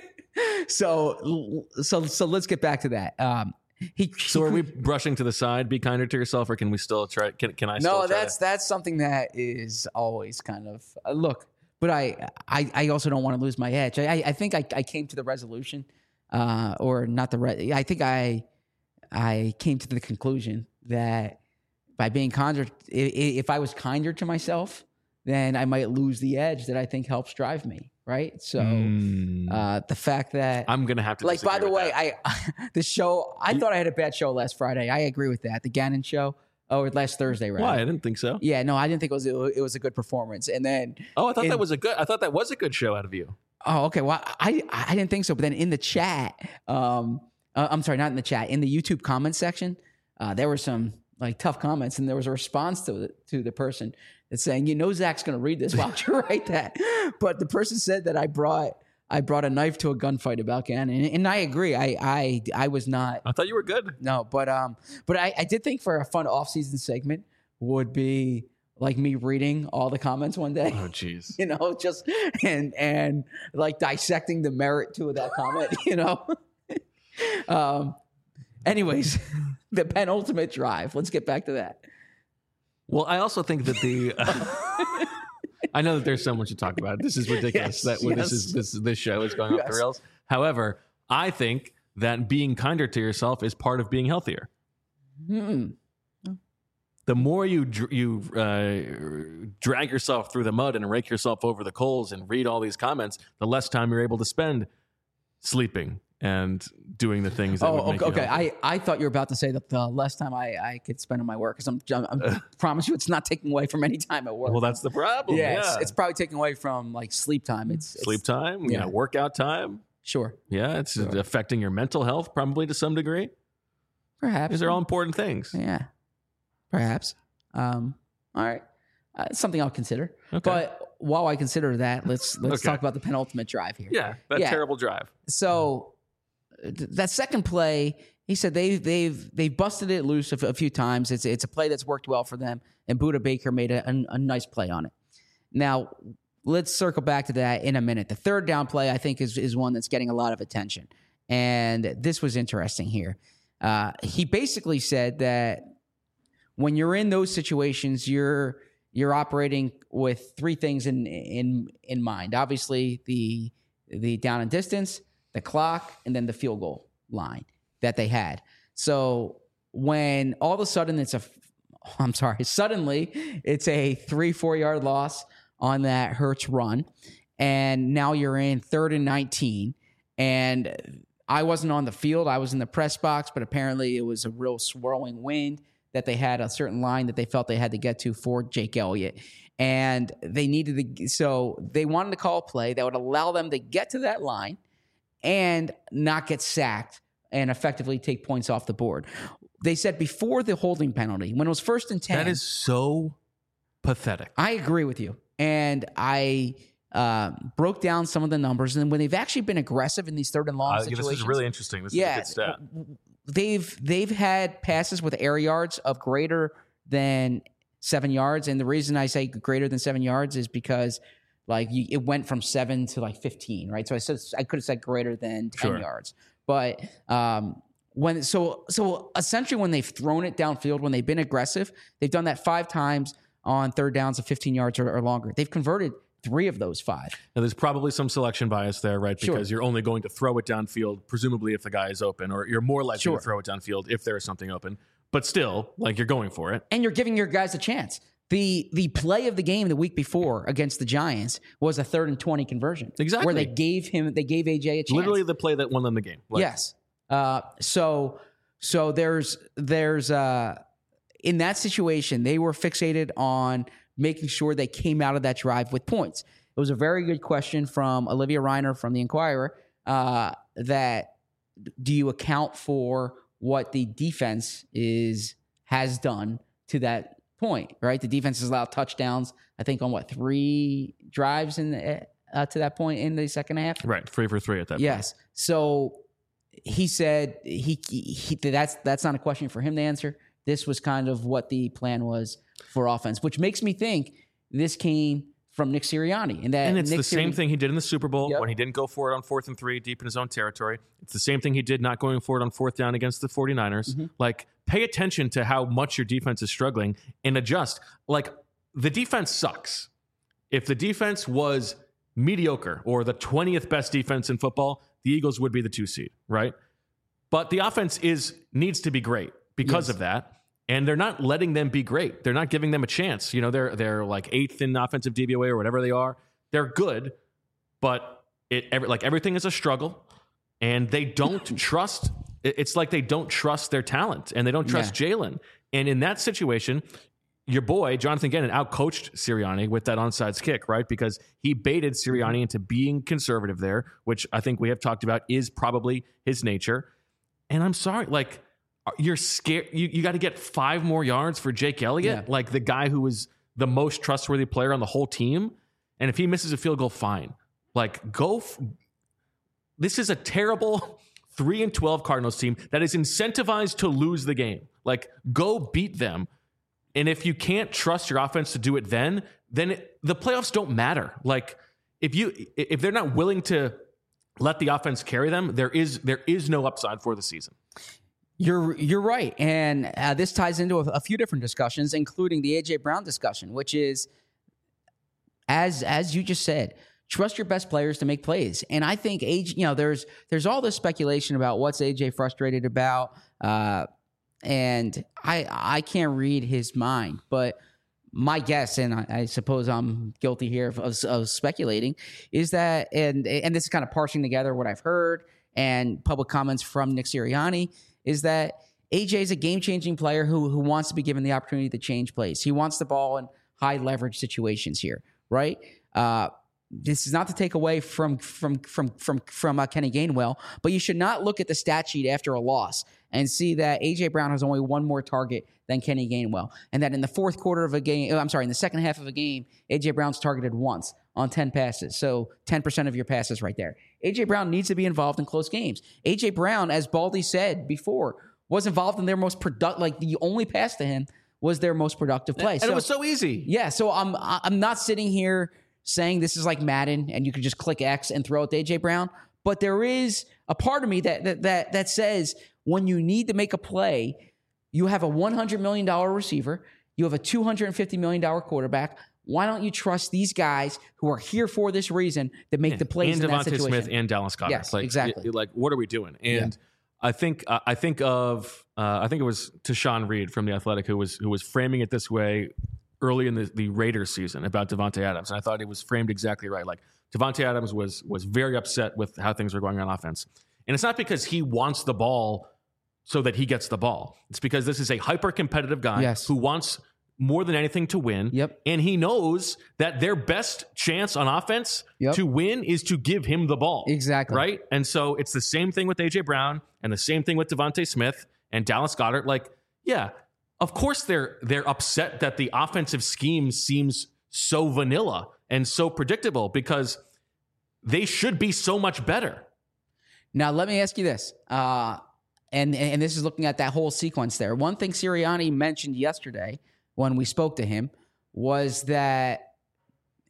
S3: so, so, so let's get back to that. Um, he,
S1: so, are we brushing to the side? Be kinder to yourself, or can we still try? Can can I? Still
S3: no,
S1: try
S3: that's
S1: to...
S3: that's something that is always kind of uh, look. But I, I, I also don't want to lose my edge. I, I think I, I came to the resolution, uh, or not the. Re- I think I, I came to the conclusion that by being kinder, if I was kinder to myself, then I might lose the edge that I think helps drive me. Right. So mm. uh, the fact that
S1: I'm gonna have to
S3: like. By the way,
S1: that.
S3: I the show. I you, thought I had a bad show last Friday. I agree with that. The Gannon show. Oh, last Thursday, right?
S1: Why? I didn't think so.
S3: Yeah, no, I didn't think it was it was a good performance. And then
S1: oh, I thought
S3: in,
S1: that was a good. I thought that was a good show out of you.
S3: Oh, okay. Well, I I didn't think so. But then in the chat, um, uh, I'm sorry, not in the chat, in the YouTube comment section, uh, there were some like tough comments, and there was a response to the, to the person that's saying, you know, Zach's going to read this. Why don't you write that? But the person said that I brought. I brought a knife to a gunfight about Gannon, and, and I agree. I, I I was not.
S1: I thought you were good.
S3: No, but um, but I, I did think for a fun off-season segment would be like me reading all the comments one day.
S1: Oh, jeez.
S3: You know, just and and like dissecting the merit to that comment. You know. um. Anyways, the penultimate drive. Let's get back to that.
S1: Well, I also think that the. Uh, I know that there's so much to talk about. This is ridiculous
S3: yes,
S1: that
S3: yes.
S1: this is this this show is going
S3: yes.
S1: off the rails. However, I think that being kinder to yourself is part of being healthier.
S3: Hmm.
S1: The more you you uh, drag yourself through the mud and rake yourself over the coals and read all these comments, the less time you're able to spend sleeping and doing the things that
S3: oh,
S1: would make
S3: okay.
S1: you
S3: okay. I, I thought you were about to say that the less time I, I could spend on my work, because I'm, I'm I promise you it's not taking away from any time at work.
S1: Well, that's the problem.
S3: Yeah,
S1: yeah.
S3: It's, it's probably taking away from like sleep time. It's, it's
S1: sleep time,
S3: yeah.
S1: yeah, workout time.
S3: Sure.
S1: Yeah, it's
S3: sure.
S1: affecting your mental health probably to some degree.
S3: Perhaps.
S1: These are all important things.
S3: Yeah, perhaps. Um, all right, uh, it's something I'll consider.
S1: Okay.
S3: But while I consider that, let's let's
S1: okay.
S3: talk about the penultimate drive here.
S1: Yeah, that
S3: yeah.
S1: terrible drive.
S3: So th- that second play, he said they've they've they've busted it loose a, f- a few times. It's it's a play that's worked well for them, and Budda Baker made a, a, a nice play on it. Now let's circle back to that in a minute. The third down play, I think, is is one that's getting a lot of attention, and this was interesting here. Uh, he basically said that when you're in those situations, you're you're operating with three things in in in mind. Obviously, the the down and distance, the clock, and then the field goal line that they had. So when all of a sudden it's a, I'm sorry, suddenly it's a three four yard loss on that Hurts run, and now you're in third and nineteen, and I wasn't on the field. I was in the press box, but apparently it was a real swirling wind that they had a certain line that they felt they had to get to for Jake Elliott. And they needed to, so they wanted to call a play that would allow them to get to that line and not get sacked and effectively take points off the board. They said before the holding penalty, when it was first and ten.
S1: That is so pathetic.
S3: I agree with you. And I uh, broke down some of the numbers. And when they've actually been aggressive in these third and long uh, situations.
S1: This is really interesting. This
S3: yeah,
S1: is a good stat.
S3: They've they've had passes with air yards of greater than seven yards, and the reason I say greater than seven yards is because Like you, it went from seven to like fifteen, right? So I said I could have said greater than ten
S1: Sure.
S3: yards, but um, when so so essentially when they've thrown it downfield, when they've been aggressive, they've done that five times on third downs of fifteen yards or, or longer. They've converted three of those five.
S1: Now, there's probably some selection bias there, right?
S3: Sure.
S1: Because you're only going to throw it downfield, presumably if the guy is open, or you're more likely
S3: Sure.
S1: to throw it downfield if there is something open. But still, like you're going for it.
S3: And you're giving your guys a chance. The the play of the game the week before against the Giants was a third and twenty conversion.
S1: Exactly.
S3: Where they gave him they gave A J a chance.
S1: Literally the play that won them the game. Like,
S3: yes. Uh, so so there's there's uh, in that situation they were fixated on making sure they came out of that drive with points. It was a very good question from Olivia Reiner from the Inquirer. Uh, that do you account for what the defense is has done to that point? Right, the defense has allowed touchdowns. I think on what three drives in the, uh, to that point in the second half.
S1: Right, three for three at that
S3: Yes.
S1: point.
S3: So he said he, he that's that's not a question for him to answer. This was kind of what the plan was for offense, which makes me think this came from Nick Sirianni. And that
S1: And it's
S3: Nick
S1: the same
S3: Sirianni,
S1: thing he did in the Super Bowl
S3: Yep.
S1: when he didn't go for it on fourth and three deep in his own territory. It's the same thing he did not going for it on fourth down against the 49ers.
S3: Mm-hmm.
S1: Like, pay attention to how much your defense is struggling and adjust. Like, the defense sucks. If the defense was mediocre or the twentieth best defense in football, the Eagles would be the two seed, right? But the offense is needs to be great because
S3: Yes.
S1: of that. And they're not letting them be great. They're not giving them a chance. You know, they're they're like eighth in offensive D V O A or whatever they are. They're good, but it every, like everything is a struggle, and they don't trust. it- It's like they don't trust their talent, and they don't trust Jalen. And in that situation, your boy Jonathan Gannon outcoached Sirianni with that onside kick, right? Because he baited Sirianni into being conservative there, which I think we have talked about is probably his nature. And I'm sorry, like. You're scared. You, you got to get five more yards for Jake Elliott,
S3: Yeah.
S1: like the guy who was the most trustworthy player on the whole team. And if he misses a field goal, fine. Like, go. F- this is a terrible three and twelve Cardinals team that is incentivized to lose the game. Like, go beat them. And if you can't trust your offense to do it, then then it, the playoffs don't matter. Like, if you if they're not willing to let the offense carry them, there is there is no upside for the season.
S3: You're you're right, and uh, this ties into a, a few different discussions, including the A J Brown discussion, which is, as as you just said, trust your best players to make plays. And I think A J, you know, there's there's all this speculation about what's A J frustrated about, uh, and I I can't read his mind, but my guess, and I, I suppose I'm guilty here of, of, of speculating, is that, and and this is kind of parsing together what I've heard and public comments from Nick Sirianni, is that A J is a game-changing player who who wants to be given the opportunity to change plays. He wants the ball in high leverage situations here, right? Uh, this is not to take away from from from from from uh, Kenny Gainwell, but you should not look at the stat sheet after a loss and see that A J Brown has only one more target than Kenny Gainwell, and that in the fourth quarter of a game, I'm sorry, in the second half of a game, A J Brown's targeted once on ten passes. So ten percent of your passes right there. A J Brown needs to be involved in close games. A J Brown, as Baldy said before, was involved in their most productive, like the only pass to him was their most productive play.
S1: And
S3: so,
S1: it was so easy.
S3: yeah, so I'm I'm not sitting here saying this is like Madden and you can just click X and throw it to A J Brown, but there is a part of me that that that, that says when you need to make a play, you have a one hundred million dollars receiver, you have a two hundred fifty million dollars quarterback. Why don't you trust these guys who are here for this reason that make the plays
S1: and
S3: in that
S1: Devontae
S3: situation?
S1: Smith and Dallas Goedert.
S3: Yes,
S1: like,
S3: exactly.
S1: Like, what are we doing? And I think uh, I think of uh, I think it was Tashawn Reed from The Athletic who was who was framing it this way early in the, the Raiders season about Devontae Adams, and I thought it was framed exactly right. Like, Devontae Adams was was very upset with how things were going on offense, and it's not because he wants the ball so that he gets the ball. It's because this is a hyper competitive guy
S3: Yes.
S1: who wants more than anything to win.
S3: Yep.
S1: And he knows that their best chance on offense
S3: Yep.
S1: to win is to give him the ball.
S3: Exactly.
S1: Right? And so it's the same thing with A J Brown and the same thing with Devontae Smith and Dallas Goedert. Like, yeah, of course they're they're upset that the offensive scheme seems so vanilla and so predictable because they should be so much better.
S3: Now, let me ask you this, uh, and and this is looking at that whole sequence there. One thing Sirianni mentioned yesterday when we spoke to him was that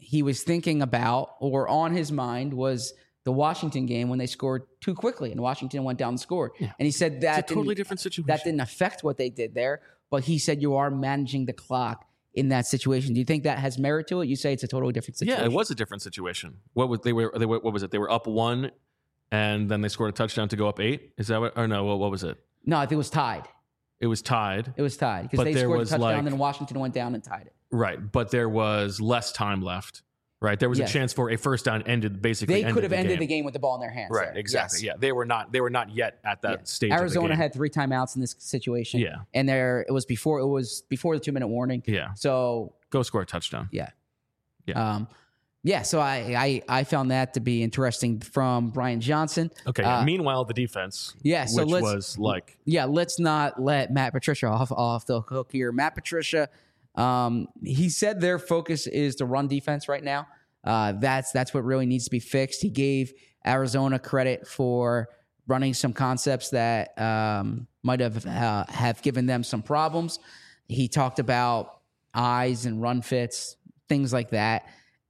S3: he was thinking about, or on his mind, was the Washington game when they scored too quickly and Washington went down and scored.
S1: Yeah.
S3: And he said that
S1: It's a totally different situation.
S3: That didn't affect what they did there, but he said you are managing the clock in that situation. Do you think that has merit to it? You say it's a totally different situation.
S1: Yeah, it was a different situation. What was they were they were what was it? They were up one, and then they scored a touchdown to go up eight. Is that what? Or no? What, what was it?
S3: No, I think it was tied.
S1: It was tied.
S3: It was tied because
S1: But
S3: they
S1: there
S3: scored a
S1: was,
S3: touchdown,
S1: like-
S3: and then Washington went down and tied it.
S1: Right, but there was less time left. Right, there was
S3: Yes.
S1: a chance for a first down. Ended basically.
S3: They
S1: ended
S3: could have
S1: the
S3: ended
S1: game.
S3: the game with the ball in their hands.
S1: Right,
S3: there.
S1: exactly.
S3: Yes.
S1: Yeah, they were not. They were not yet at that
S3: Yeah.
S1: stage. of the
S3: Arizona
S1: game.
S3: had three timeouts in this situation.
S1: Yeah.
S3: and there it was before it was before the two minute warning.
S1: Yeah,
S3: So
S1: go score a touchdown.
S3: yeah,
S1: Yeah.
S3: um, yeah. So I, I I found that to be interesting from Brian Johnson.
S1: Okay.
S3: Uh,
S1: meanwhile, the defense.
S3: Yeah, so
S1: which
S3: let's-
S1: was like
S3: Yeah, let's not let Matt Patricia off off the hook here. Matt Patricia, um, he said their focus is the run defense right now. Uh, that's that's what really needs to be fixed. He gave Arizona credit for running some concepts that um, might have uh, have given them some problems. He talked about eyes and run fits, things like that.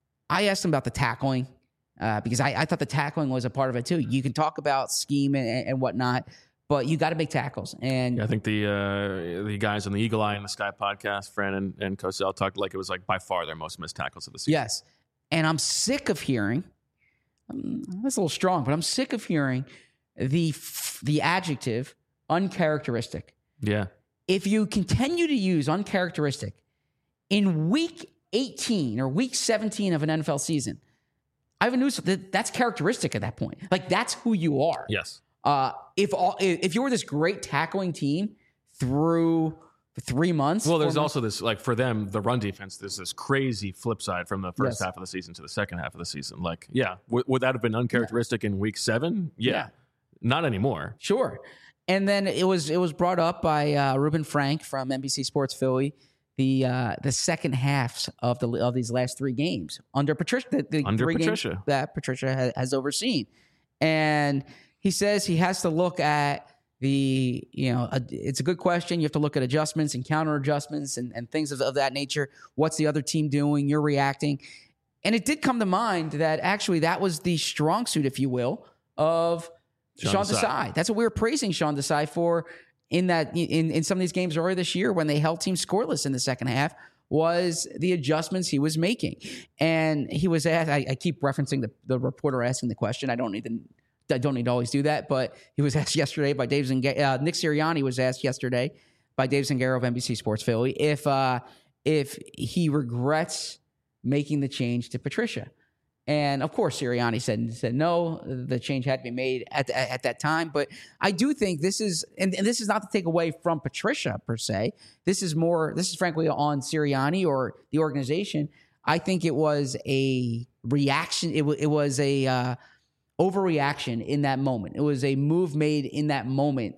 S3: I asked him about the tackling uh, because I, I thought the tackling was a part of it too. You can talk about scheme and, and whatnot, but you got to make tackles. And
S1: I think the uh, the guys on the Eagle Eye and the Sky podcast, Fran and, and Cosell, talked like it was like by far their most missed tackles of the season.
S3: yes, and I'm sick of hearing. Um, that's a little strong, but I'm sick of hearing the f- the adjective uncharacteristic.
S1: Yeah.
S3: If you continue to use uncharacteristic in week eighteen or week seventeen of an N F L season, I have a news that that's characteristic at that point. Like that's who you are.
S1: Yes.
S3: Uh, if all if you were this great tackling team through three months,
S1: Well, there's
S3: four months-
S1: also this, like, for them, the run defense, there's this crazy flip side from the first
S3: Yes.
S1: half of the season to the second half of the season. Like, yeah, w- would that have been uncharacteristic in week seven? Yeah.
S3: Yeah.
S1: Not anymore.
S3: Sure. And then it was it was brought up by uh, Ruben Frank from N B C Sports Philly. The uh, the second halves of the of these last three games under Patricia, the, the
S1: Under
S3: three games
S1: Patricia.
S3: that Patricia has, has overseen, and he says he has to look at the you know a, it's a good question. You have to look at adjustments and counter adjustments and, and things of, of that nature. What's the other team doing? You're reacting, and it did come to mind that actually that was the strong suit, if you will, of
S1: Sean
S3: Sean
S1: Desai.
S3: Desai. That's what we were praising Sean Desai for in that in, in some of these games earlier this year when they held teams scoreless in the second half, was the adjustments he was making. And he was asked, I, I keep referencing the, the reporter asking the question. I don't need to I don't need to always do that, but he was asked yesterday by Dave Zangaro. Uh, Nick Sirianni was asked yesterday by Dave Zangaro of N B C Sports Philly if uh, if he regrets making the change to Patricia. And of course, Sirianni said said no. The change had to be made at at that time. But I do think this is, and, and this is not to take away from Patricia per se. This is more. This is frankly on Sirianni or the organization. I think it was a reaction. It, w- it was a uh, overreaction in that moment. It was a move made in that moment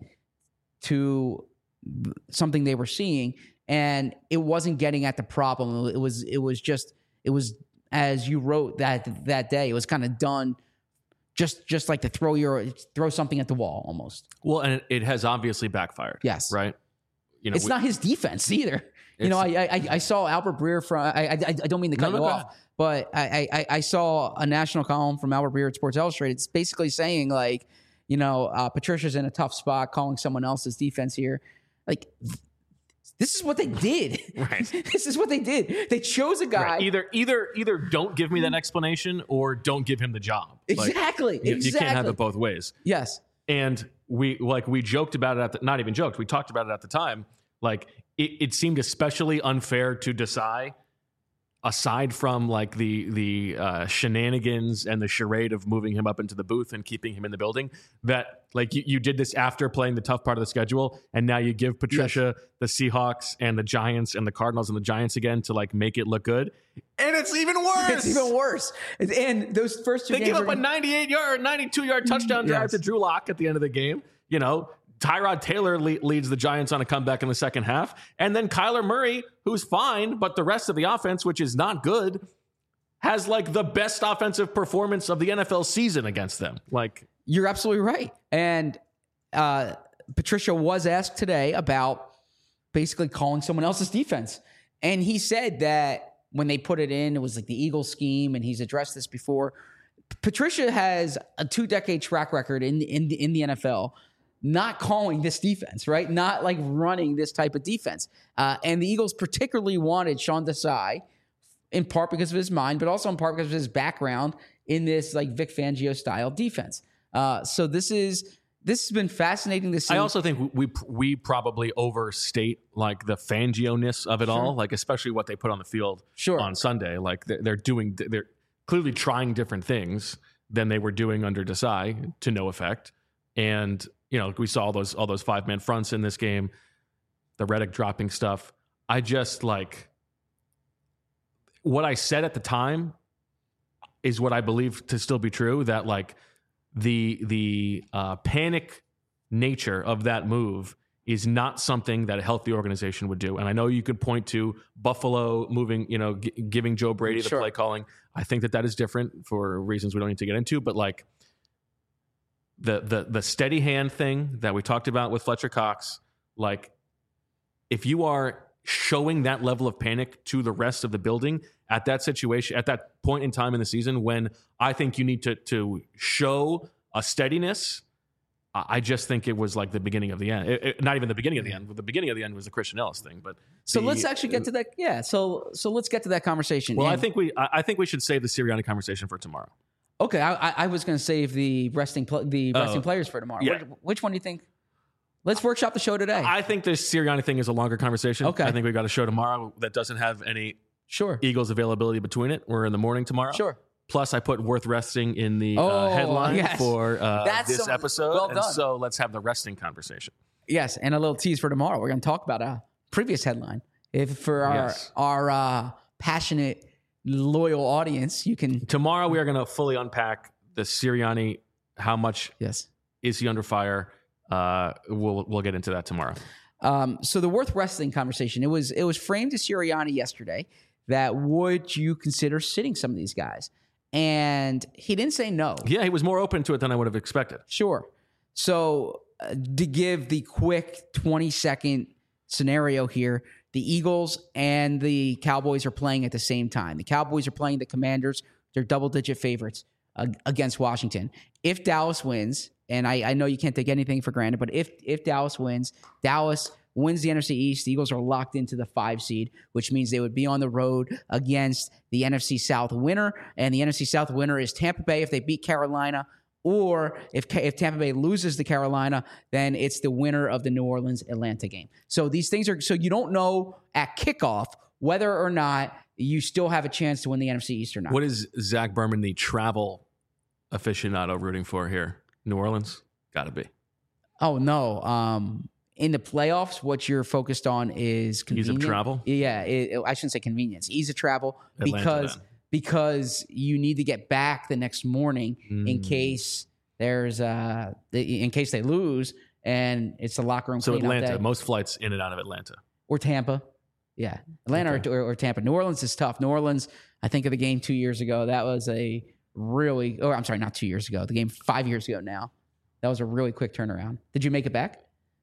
S3: to something they were seeing, and it wasn't getting at the problem. It was. It was just. It was. As you wrote that that day, it was kind of done, just just like to throw your throw something at the wall almost.
S1: Well, and it, it has obviously backfired.
S3: Yes,
S1: Right? You know,
S3: it's
S1: we-
S3: not his defense either. You know, I, I I saw Albert Breer from. I I, I don't mean to cut
S1: No,
S3: you
S1: no, go
S3: off,
S1: ahead.
S3: but I, I I saw a national column from Albert Breer at Sports Illustrated. It's basically saying like, you know, uh, Patricia's in a tough spot, calling someone else's defense here. Like, this is what they did.
S1: Right.
S3: This is what they did. They chose a guy.
S1: Right. Either either either don't give me that explanation or don't give him the job. Like,
S3: Exactly.
S1: you,
S3: exactly.
S1: you can't have it both ways.
S3: Yes.
S1: And we like we joked about it at the, not even joked. We talked about it at the time. Like it, it seemed especially unfair to Desai, aside from like the the uh, shenanigans and the charade of moving him up into the booth and keeping him in the building. That like you, you did this after playing the tough part of the schedule, and now you give Patricia the Seahawks and the Giants and the Cardinals and the Giants again to like make it look good, and it's even worse.
S3: It's even worse. And those first two
S1: They
S3: games
S1: give up
S3: were-
S1: a ninety-eight yard, ninety-two yard touchdown drive
S3: Yes.
S1: to Drew Lock at the end of the game. You know, Tyrod Taylor le- leads the Giants on a comeback in the second half. And then Kyler Murray, who's fine, but the rest of the offense, which is not good, has like the best offensive performance of the N F L season against them. Like,
S3: You're absolutely right. And uh, Patricia was asked today about basically calling someone else's defense. And he said that when they put it in, it was like the Eagle scheme, and he's addressed this before. Patricia has a two-decade track record in in the, in the N F L, not calling this defense, right? Not like running this type of defense. Uh, and the Eagles particularly wanted Sean Desai, in part because of his mind, but also in part because of his background in this like Vic Fangio style defense. Uh, so this is this has been fascinating to see.
S1: I also think we we probably overstate like the Fangio-ness of it
S3: Sure.
S1: all, like especially what they put on the field
S3: Sure.
S1: on Sunday. Like they're, they're doing, they're clearly trying different things than they were doing under Desai to no effect. And you know, we saw all those all those five man fronts in this game, the Reddick dropping stuff. I just like what I said at the time is what I believe to still be true. That like the the uh, panic nature of that move is not something that a healthy organization would do. And I know you could point to Buffalo moving, you know, g- giving Joe Brady the
S3: Sure.
S1: play calling. I think that that is different for reasons we don't need to get into. But like the the the steady hand thing that we talked about with Fletcher Cox, like if you are showing that level of panic to the rest of the building at that situation, at that point in time in the season when I think you need to to show a steadiness, I just think it was like the beginning of the end. It, it, not even the beginning of the end. The beginning of the end was the Christian Ellis thing. But
S3: So
S1: the-
S3: let's actually get to that. Yeah. So so let's get to that conversation.
S1: Well, I
S3: And-
S1: think we I I think we should save the Sirianni conversation for tomorrow.
S3: Okay, I, I- I was going to save the resting pl- the resting
S1: Oh,
S3: players for tomorrow.
S1: yeah.
S3: Which, which one do you think? Let's workshop the show today.
S1: I think this Sirianni thing is a longer conversation.
S3: Okay.
S1: I think we got a show tomorrow that doesn't have any
S3: sure,
S1: Eagles availability between it. We're in the morning tomorrow.
S3: sure.
S1: Plus, I put worth resting in the
S3: Oh,
S1: uh, headline
S3: yes.
S1: for uh,
S3: That's
S1: this
S3: some-
S1: episode.
S3: well
S1: and
S3: done.
S1: so let's have the resting conversation.
S3: Yes, and a little tease for tomorrow. We're going to talk about a previous headline. If for our
S1: Yes.
S3: our uh, passionate, loyal audience, you can
S1: Tomorrow, we are going to fully unpack the Sirianni. How much
S3: yes.
S1: is he under fire? Uh, we'll we'll get into that tomorrow.
S3: Um, so the worth wrestling conversation, it was it was framed to Sirianni yesterday that would you consider sitting some of these guys? And he didn't say no.
S1: Yeah, he was more open to it than I would have expected.
S3: Sure. So uh, to give the quick twenty second scenario here, the Eagles and the Cowboys are playing at the same time. The Cowboys are playing the Commanders. They're double digit favorites uh, against Washington. If Dallas wins, and I, I know you can't take anything for granted, but if if Dallas wins, Dallas wins the N F C East. The Eagles are locked into the five seed, which means they would be on the road against the N F C South winner. And the N F C South winner is Tampa Bay if they beat Carolina. Or if if Tampa Bay loses to Carolina, then it's the winner of the New Orleans Atlanta game. So these things are so you don't know at kickoff whether or not you still have a chance to win the N F C East or not.
S1: What is Zach Berman, the travel aficionado, rooting for here? New Orleans? Got to be.
S3: Oh no! Um, in the playoffs, what you're focused on is
S1: Ease
S3: convenience.
S1: of travel?
S3: Yeah, it, it- I shouldn't say convenience. Ease of travel
S1: Atlanta,
S3: because
S1: then.
S3: because you need to get back the next morning in
S1: Mm.
S3: case there's uh the- in case they lose and it's a locker room
S1: So
S3: cleanup
S1: Atlanta,
S3: day.
S1: most flights in and out of Atlanta.
S3: Or Tampa. Yeah. Atlanta
S1: Okay.
S3: or, or, or Tampa. New Orleans is tough. New Orleans, I think of the game two years ago. That was a really, or I'm sorry, not two years ago. The game five years ago now. That was a really quick turnaround. Did you make it back?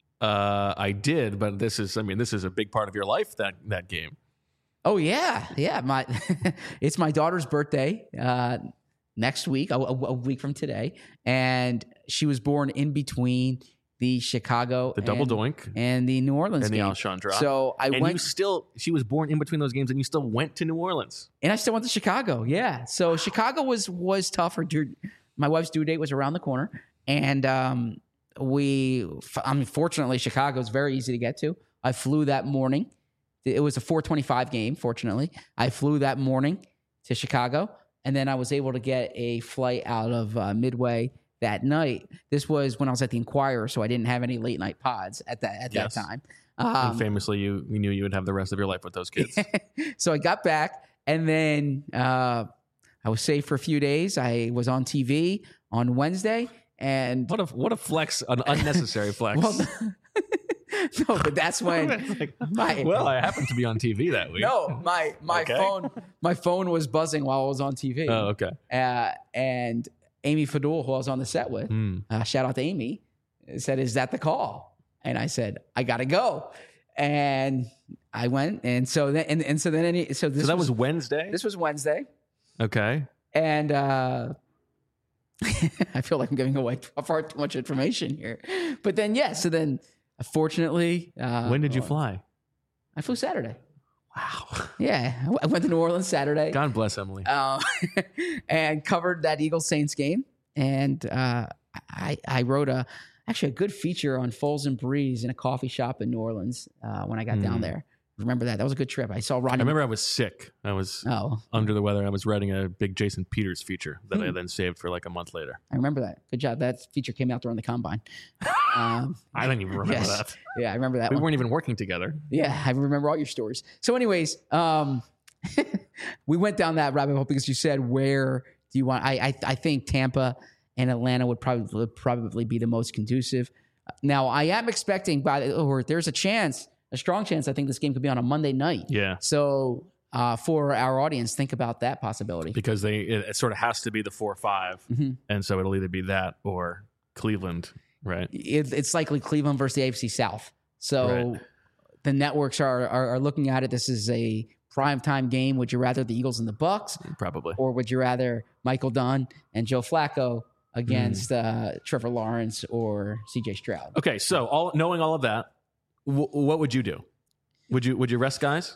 S1: Uh, I did, but this is, I mean, this is a big part of your life, that that game.
S3: Oh, yeah. Yeah. My It's my daughter's birthday uh, next week, a, a- a week from today. And she was born in between the Chicago
S1: The double
S3: and,
S1: doink
S3: and the New Orleans
S1: and the
S3: game.
S1: Alshon drop.
S3: So I
S1: and
S3: went
S1: you still, she was born in between those games and you still went to New Orleans.
S3: and I still went to Chicago. Yeah. So Chicago was was tougher. Dude, my wife's due date was around the corner, and um, we. I mean, fortunately, Chicago is very easy to get to. I flew that morning. It was a four twenty-five game. Fortunately, I flew that morning to Chicago, and then I was able to get a flight out of uh, Midway that night. This was when I was at the Inquirer, so I didn't have any late night pods at that at
S1: Yes.
S3: that time.
S1: and
S3: Um,
S1: famously, you, you knew you would have the rest of your life with those kids.
S3: so I got back, and then uh, I was safe for a few days. I was on T V on Wednesday, and
S1: What a what a flex, an unnecessary flex.
S3: well, no, but that's when
S1: It's like,
S3: my
S1: well, I happened to be on T V that week.
S3: no, my my
S1: Okay.
S3: phone my phone was buzzing while I was on T V,
S1: Oh, okay.
S3: uh, and Amy Fadul, who I was on the set with,
S1: Hmm.
S3: uh, shout out to Amy, said, "Is that the call?" And I said, "I gotta go." And I went, and so then, and, and so then, any, so this
S1: So that
S3: was,
S1: was Wednesday?
S3: this was Wednesday,
S1: Okay.
S3: and uh, I feel like I'm giving away far too much information here. But then, yeah, so then, fortunately, uh,
S1: When did you fly?
S3: I flew Saturday.
S1: Wow.
S3: Yeah, I went to New Orleans Saturday.
S1: God bless Emily.
S3: Uh, and covered that Eagles Saints game, and uh, I I wrote a actually a good feature on Foles and Breeze in a coffee shop in New Orleans uh, when I got
S1: Mm.
S3: down there. Remember that? That was a good trip. I saw Ronnie.
S1: I remember I was sick. I was
S3: Oh,
S1: under the weather. I was writing a big Jason Peters feature that
S3: Hmm.
S1: I then saved for like a month later.
S3: I remember that. Good job. That feature came out during the combine. Um,
S1: I don't even remember
S3: yes.
S1: that.
S3: Yeah, I remember that
S1: We
S3: one.
S1: weren't even working together.
S3: Yeah, I remember all your stories. So, anyways, um, we went down that rabbit hole because you said, where do you want? I I, I think Tampa and Atlanta would probably would probably be the most conducive. Now, I am expecting, by the, or there's a chance, a strong chance, I think this game could be on a Monday night.
S1: Yeah.
S3: So, uh, for our audience, think about that possibility.
S1: Because they it, it sort of has to be the four or five.
S3: Mhm.
S1: And so it'll either be that or Cleveland, right?
S3: It, it's likely Cleveland versus the A F C South. So,
S1: Right.
S3: the networks are, are are looking at it. This is a primetime game. Would you rather the Eagles and the Bucks,
S1: Probably.
S3: or would you rather Michael Dunn and Joe Flacco against
S1: Hmm.
S3: uh, Trevor Lawrence or C J Stroud?
S1: Okay, so all knowing all of that, w- what would you do? Would you would you rest guys?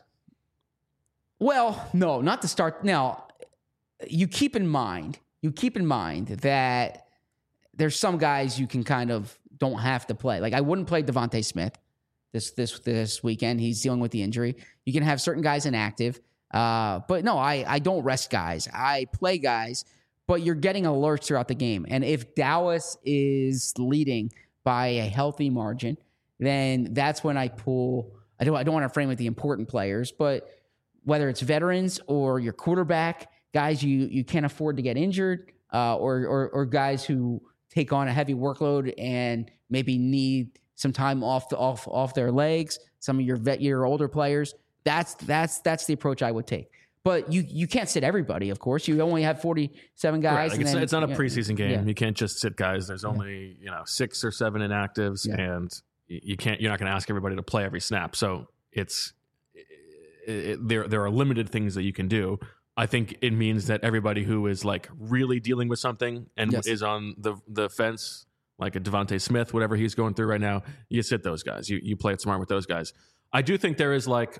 S3: Well, no, not to start. Now, you keep in mind, you keep in mind that there's some guys you can kind of don't have to play. Like I wouldn't play Devontae Smith this this this weekend. He's dealing with the injury. You can have certain guys inactive, uh, but no, I I don't rest guys. I play guys, but you're getting alerts throughout the game. And if Dallas is leading by a healthy margin, then that's when I pull. I don't I don't want to frame it the important players, but whether it's veterans or your quarterback, guys you you can't afford to get injured, uh, or, or or guys who take on a heavy workload and maybe need some time off the, off off their legs. Some of your vet your older players. That's that's that's the approach I would take. But you you can't sit everybody, of course. You only have forty-seven guys.
S1: Right, like
S3: and
S1: it's,
S3: then-
S1: it's not a
S3: yeah,
S1: preseason game.
S3: yeah.
S1: You can't just sit guys. There's only you know six or seven inactives,
S3: Yeah.
S1: and y- you can't. You're not going to ask everybody to play every snap. So it's it, it, there. There are limited things that you can do. I think it means that everybody who is like really dealing with something and
S3: Yes.
S1: is on the the fence, like a Devontae Smith, whatever he's going through right now, you sit those guys. You you play it smart with those guys. I do think there is like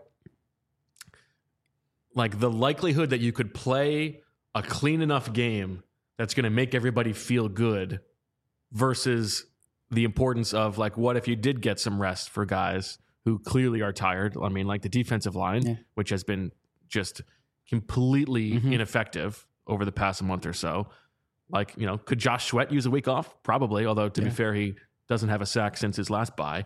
S1: like the likelihood that you could play a clean enough game that's going to make everybody feel good versus the importance of like what if you did get some rest for guys who clearly are tired. I mean, like the defensive line,
S3: Yeah.
S1: which has been just completely
S3: Mhm.
S1: ineffective over the past month or so. Like, you know, could Josh Sweat use a week off? Probably, although to
S3: Yeah.
S1: be fair, he doesn't have a sack since his last bye.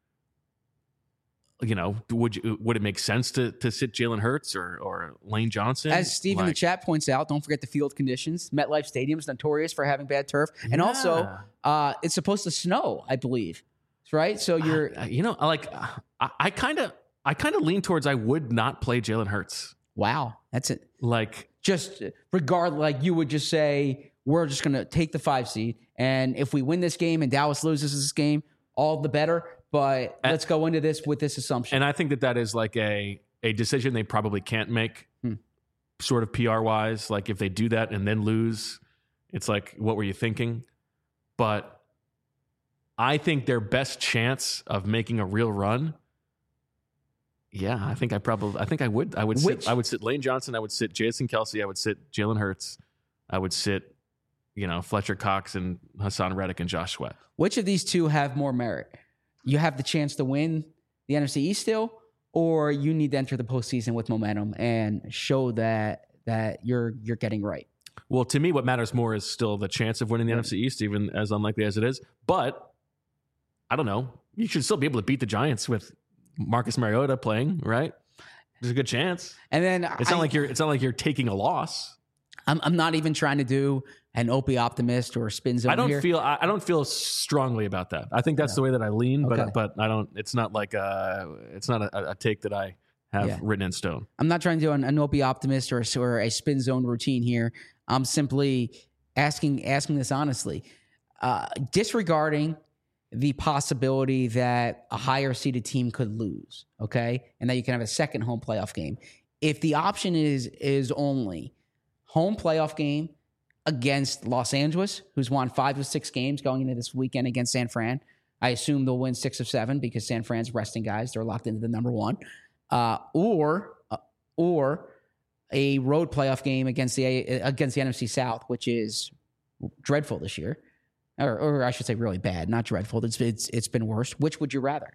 S1: You know, would you, would it make sense to to sit Jalen Hurts or or Lane Johnson?
S3: As Steve in the
S1: Like,
S3: chat points out, don't forget the field conditions. MetLife Stadium's notorious for having bad turf, and also
S1: Yeah.
S3: uh, it's supposed to snow, I believe. Right, so you're
S1: Uh, you know, I like I kind of I kind of lean towards I would not play Jalen Hurts.
S3: wow. That's it.
S1: Like,
S3: Just regard like you would just say we're just going to take the five seed, and if we win this game and Dallas loses this game, all the better. But
S1: And-
S3: let's go into this with this assumption.
S1: and I think that that is like a a decision they probably can't make,
S3: Hmm.
S1: sort of P R wise. Like if they do that and then lose, it's like, what were you thinking? But I think their best chance of making a real run. Yeah, I think I probably I think I would I would
S3: Which-
S1: sit I would sit Lane Johnson, I would sit Jason Kelsey, I would sit Jalen Hurts, I would sit, you know, Fletcher Cox and Hassan Reddick and Josh Sweat.
S3: Which of these two have more merit? You have the chance to win the N F C East still, or you need to enter the postseason with momentum and show that that you're you're getting right.
S1: Well, to me, what matters more is still the chance of winning the N F C East, even as unlikely as it is. But I don't know. You should still be able to beat the Giants with Marcus Mariota playing, right? There's a good chance.
S3: And then
S1: It's
S3: I,
S1: not like you're. It's not like you're taking a loss.
S3: I'm I'm not even trying to do an Opie optimist or a spin zone
S1: I don't
S3: here.
S1: feel. I, I don't feel strongly about that. I think that's the way that I lean,
S3: Okay.
S1: but but I don't. It's not like a. It's not a, a take that I have
S3: Yeah.
S1: written in stone.
S3: I'm not trying to do an, an Opie optimist or, a- or a spin zone routine here. I'm simply asking asking this honestly, uh, disregarding the possibility that a higher seeded team could lose, okay? And that you can have a second home playoff game. If the option is is only home playoff game against Los Angeles, who's won five of six games going into this weekend against San Fran, I assume they'll win six of seven because San Fran's resting guys. They're locked into the number one. Uh, or uh, or a road playoff game against the against the N F C South, which is dreadful this year. Or, or I should say really bad, not dreadful. It's, it's it's been worse. Which would you rather?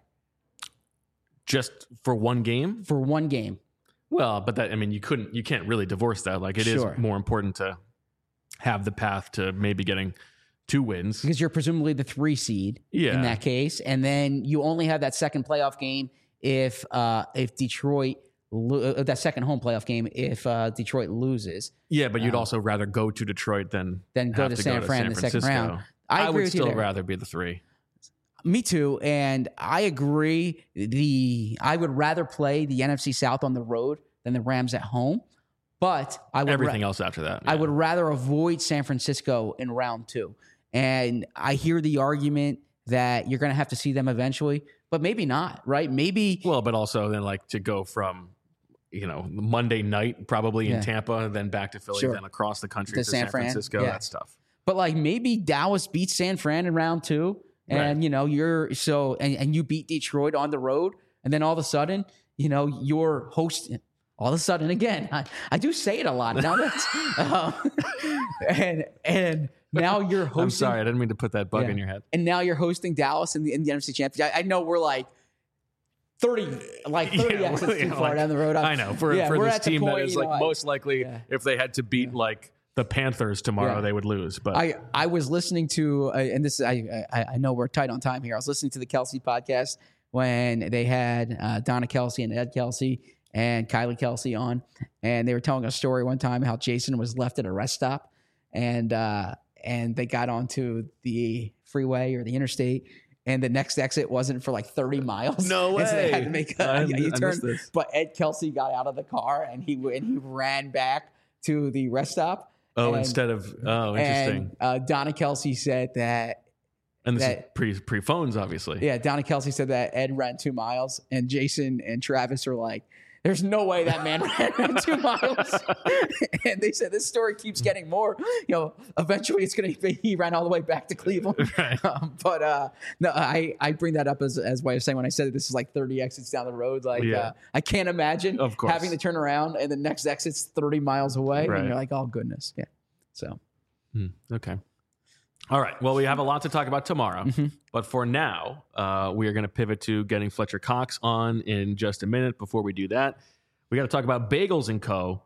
S1: Just for one game?
S3: For one game.
S1: Well, but that, I mean, you couldn't, you can't really divorce that. Like, it
S3: Sure.
S1: is more important to have the path to maybe getting two wins.
S3: Because you're presumably the three seed
S1: Yeah.
S3: in that case. And then you only have that second playoff game if uh, if Detroit, lo- uh, that second home playoff game if uh, Detroit loses.
S1: Yeah, but you'd
S3: Uh,
S1: also rather go to Detroit than
S3: Then go
S1: have
S3: to San Fran in the second
S1: Francisco.
S3: round. I,
S1: I,
S3: agree
S1: would
S3: with you
S1: still
S3: there.
S1: rather be the three.
S3: Me too, and I agree. The I would rather play the N F C South on the road than the Rams at home, but I would ra-
S1: Everything else after that.
S3: I
S1: yeah.
S3: would rather avoid San Francisco in round two. And I hear the argument that you're going to have to see them eventually, but maybe not, right? Maybe
S1: Well, but also then like to go from, you know, Monday night probably
S3: Yeah.
S1: in Tampa, then back to Philly,
S3: Sure.
S1: then across the country
S3: To
S1: to,
S3: San
S1: San,
S3: Fran,
S1: Francisco.
S3: yeah.
S1: That's tough.
S3: But like maybe Dallas beats San Fran in round two, and
S1: Right.
S3: you know you're so and, and you beat Detroit on the road, and then all of a sudden you know you're hosting. All of a sudden, again, I, I do say it a lot now. That's um, and and now you're hosting.
S1: I'm sorry, I didn't mean to put that bug
S3: Yeah.
S1: in your head.
S3: And now you're hosting Dallas in the, in the N F C Championship. I, I know we're like thirty, like thirty
S1: Yeah,
S3: exits
S1: well,
S3: too
S1: yeah,
S3: far
S1: like,
S3: down the road.
S1: I know for
S3: yeah,
S1: for
S3: we're
S1: this
S3: at the
S1: team
S3: point,
S1: that is
S3: you know,
S1: like
S3: I-
S1: most likely
S3: yeah.
S1: if they had to beat like the Panthers tomorrow,
S3: Yeah.
S1: they would lose. But
S3: I, I was listening to, uh, and this I, I I know we're tight on time here. I was listening to the Kelsey podcast when they had uh, Donna Kelsey and Ed Kelsey and Kylie Kelsey on, and they were telling a story one time how Jason was left at a rest stop, and uh, and they got onto the freeway or the interstate, and the next exit wasn't for like thirty miles.
S1: No
S3: And so they had
S1: way.
S3: to make
S1: I-
S3: a,
S1: I
S3: a U-turn.
S1: missed this.
S3: But Ed Kelsey got out of the car and he and he ran back to the rest stop.
S1: oh,
S3: and-
S1: instead of oh, interesting.
S3: And uh, Donna Kelsey said that,
S1: And, this
S3: that-
S1: is pre pre phones, obviously.
S3: yeah, Donna Kelsey said that Ed ran two miles, and Jason and Travis are like, there's no way that man ran two miles. And they said this story keeps getting more. You know, eventually it's going to be he ran all the way back to Cleveland.
S1: Right.
S3: Um, but uh, no, I, I bring that up as as way of saying when I said that this is like thirty exits down the road. Like,
S1: Yeah.
S3: uh, I can't imagine
S1: Of course.
S3: having to turn around and the next exit's thirty miles away.
S1: Right.
S3: And you're like, oh, goodness. Yeah. So.
S1: Hmm, okay. All right. Well, we have a lot to talk about tomorrow,
S3: Mm-hmm.
S1: but for now, uh, we are going to pivot to getting Fletcher Cox on in just a minute. Before we do that, we got to talk about Bagels and Co.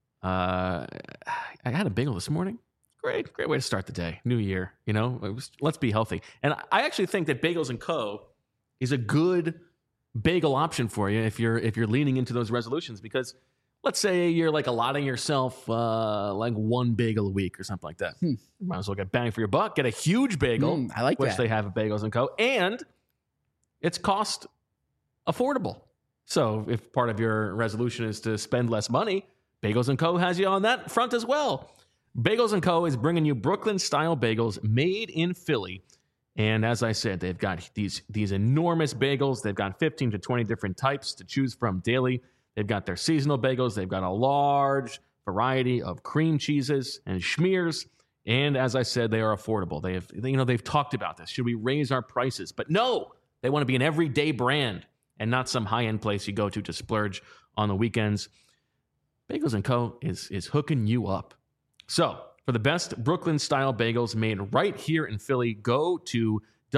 S1: Uh, I had a bagel this morning. Great, great way to start the day. New year, you know. It was, let's be healthy. And I actually think that Bagels and Co. is a good bagel option for you if you're if you're leaning into those resolutions, because let's say you're like allotting yourself uh, like one bagel a week or something like that.
S3: Hmm.
S1: Might as well get bang for your buck. Get a huge bagel,
S3: Mm, I like
S1: which
S3: that.
S1: they have at Bagels and Co. And it's cost affordable. So if part of your resolution is to spend less money, Bagels and Co. has you on that front as well. Bagels and Co. is bringing you Brooklyn-style bagels made in Philly. And as I said, they've got these, these enormous bagels. They've got fifteen to twenty different types to choose from daily. They've got their seasonal bagels. They've got a large variety of cream cheeses and schmears. And as I said, they are affordable. They have, you know, they've talked about this. Should we raise our prices? But no, they want to be an everyday brand and not some high-end place you go to to splurge on the weekends. Bagels and Co. is, is hooking you up. So for the best Brooklyn-style bagels made right here in Philly, go to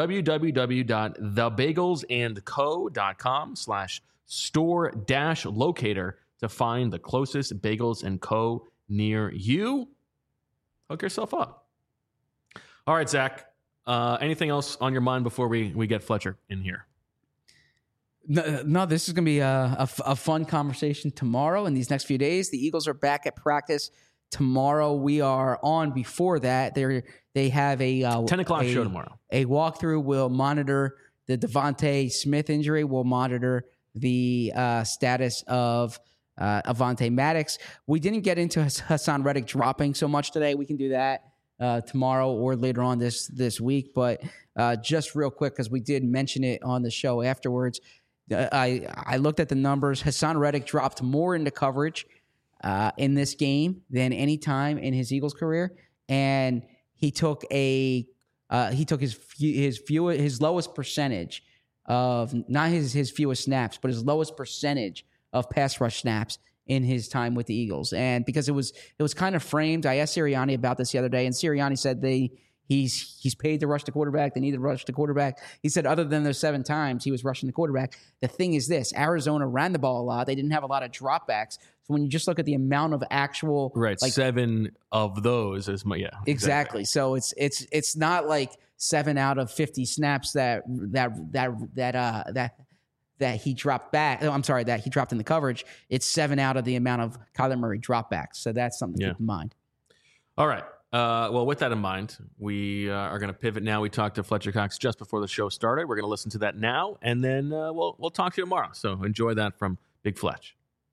S1: www.thebagelsandco.com slash store dash locator to find the closest Bagels and Co. near you. Hook yourself up. All right, Zach. Uh, anything else on your mind before we, we get Fletcher in here?
S3: No, no, this is going to be a, a, f- a fun conversation tomorrow and these next few days. The Eagles are back at practice tomorrow. We are on before that. They they have a uh,
S1: ten o'clock
S3: a,
S1: show tomorrow.
S3: A walkthrough will monitor the Devontae Smith injury. We'll monitor the uh, status of uh, Avonte Maddox. We didn't get into Hassan Reddick dropping so much today. We can do that uh, tomorrow or later on this this week. But uh, just real quick, because we did mention it on the show afterwards, uh, I I looked at the numbers. Hassan Reddick dropped more into coverage uh, in this game than any time in his Eagles career, and he took a uh, he took his his few, his lowest percentage of not his his fewest snaps, but his lowest percentage of pass rush snaps in his time with the Eagles. And because it was it was kind of framed, I asked Sirianni about this the other day, and Sirianni said they he's he's paid to rush the quarterback. They need to rush the quarterback. He said other than those seven times he was rushing the quarterback, the thing is this: Arizona ran the ball a lot. They didn't have a lot of dropbacks. So when you just look at the amount of actual
S1: right,
S3: like,
S1: seven of those is my yeah
S3: exactly.
S1: exactly.
S3: So it's it's it's not like seven out of fifty snaps that that that that uh that. that he dropped back. Oh, I'm sorry, that he dropped in the coverage. It's seven out of the amount of Kyler Murray dropbacks. So that's something to
S1: yeah.
S3: keep in mind.
S1: All right. Uh, well, with that in mind, we uh, are going to pivot now. We talked to Fletcher Cox just before the show started. We're going to listen to that now, and then uh, we'll we'll talk to you tomorrow. So enjoy that from Big Fletch.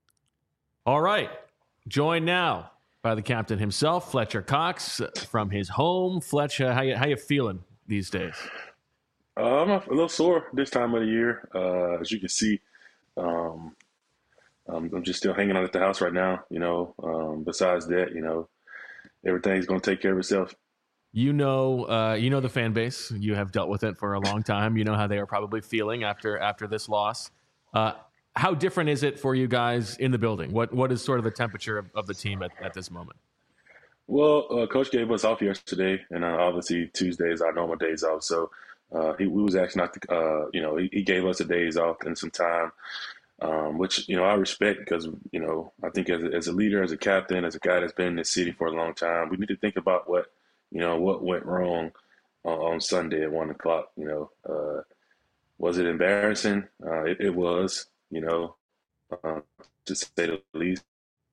S1: All right. Joined now by the captain himself, Fletcher Cox, from his home. Fletch, uh, how you, how you feeling these days?
S4: Uh, I'm a little sore this time of the year. Uh, as you can see, um, um, I'm just still hanging on at the house right now. You know, um, besides that, you know, everything's going to take care of itself.
S1: You know, uh, you know the fan base. You have dealt with it for a long time. You know how they are probably feeling after after this loss. Uh, how different is it for you guys in the building? What what is sort of the temperature of, of the team at, at this moment?
S4: Well, uh, Coach gave us off yesterday, and uh, obviously Tuesday is our normal days off. So. Uh, he we was actually not, to, uh, you know, he, he gave us the days off and some time, um, which, you know, I respect because, you know, I think as a, as a leader, as a captain, as a guy that's been in this city for a long time, we need to think about what, you know, what went wrong uh, on Sunday at one o'clock. You know, uh, was it embarrassing? Uh, it, it was, you know, uh, to say the least.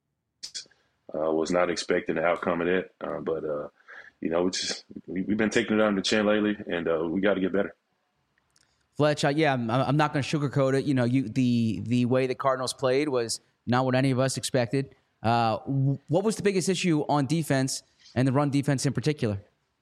S4: Uh, was not expecting the outcome of that, uh, but. Uh, You know, we just, we, we've been taking it on the chin lately, and uh, we got to get better.
S3: Fletch, uh, yeah, I'm, I'm not going to sugarcoat it. You know, you the the way the Cardinals played was not what any of us expected. Uh, what was the biggest issue on defense and the run defense in particular?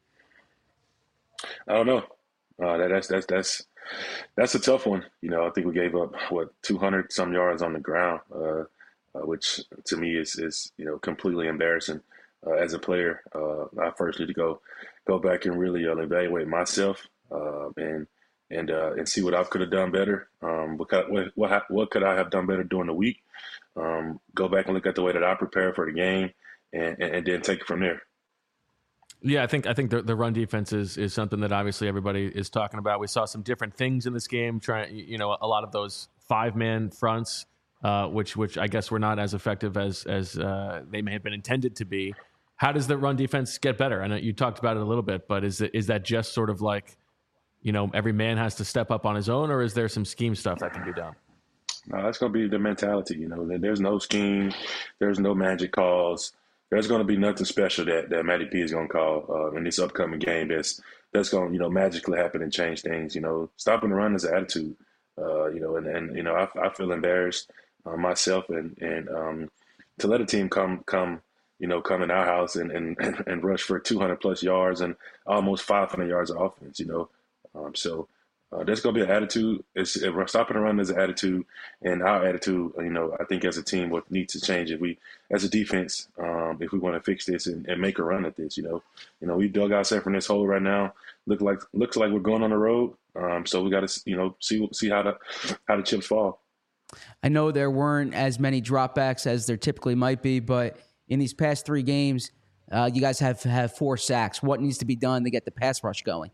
S4: I don't know. Uh, that, that's that's that's that's a tough one. You know, I think we gave up what two hundred some yards on the ground, uh, uh, which to me is is you know completely embarrassing. Uh, as a player, uh, I first need to go go back and really uh, evaluate myself uh, and and uh, and see what I could have done better. Um, what, what what what could I have done better during the week? Um, go back and look at the way that I prepared for the game, and, and, and then take it from there.
S1: Yeah, I think I think the, the run defense is is something that obviously everybody is talking about. We saw some different things in this game. Trying, you know, a lot of those five man fronts, uh, which which I guess were not as effective as as uh, they may have been intended to be. How does the run defense get better? I know you talked about it a little bit, but is it, is that just sort of like, you know, every man has to step up on his own, or is there some scheme stuff that can be done?
S4: No, that's going to be the mentality. You know, there's no scheme, there's no magic calls. There's going to be nothing special that, that Matty P is going to call uh, in this upcoming game. That's that's going to you know magically happen and change things. You know, stopping the run is an attitude. Uh, you know, and, and you know I, I feel embarrassed uh, myself, and and um, to let a team come come. you know, come in our house and, and, and rush for two hundred plus yards and almost five hundred yards of offense, you know. Um, so uh, there's going to be an attitude. It's, if we're stopping the run, there's an attitude. And our attitude, you know, I think as a team would need to change. If we, as a defense, um, if we want to fix this and, and make a run at this, you know. You know, we dug ourselves from this hole right now. Look like Looks like we're going on the road. Um, so we got to, you know, see see how the, how the chips fall.
S3: I know there weren't as many dropbacks as there typically might be, but in these past three games, uh, you guys have, have four sacks. What needs to be done to get the pass rush going?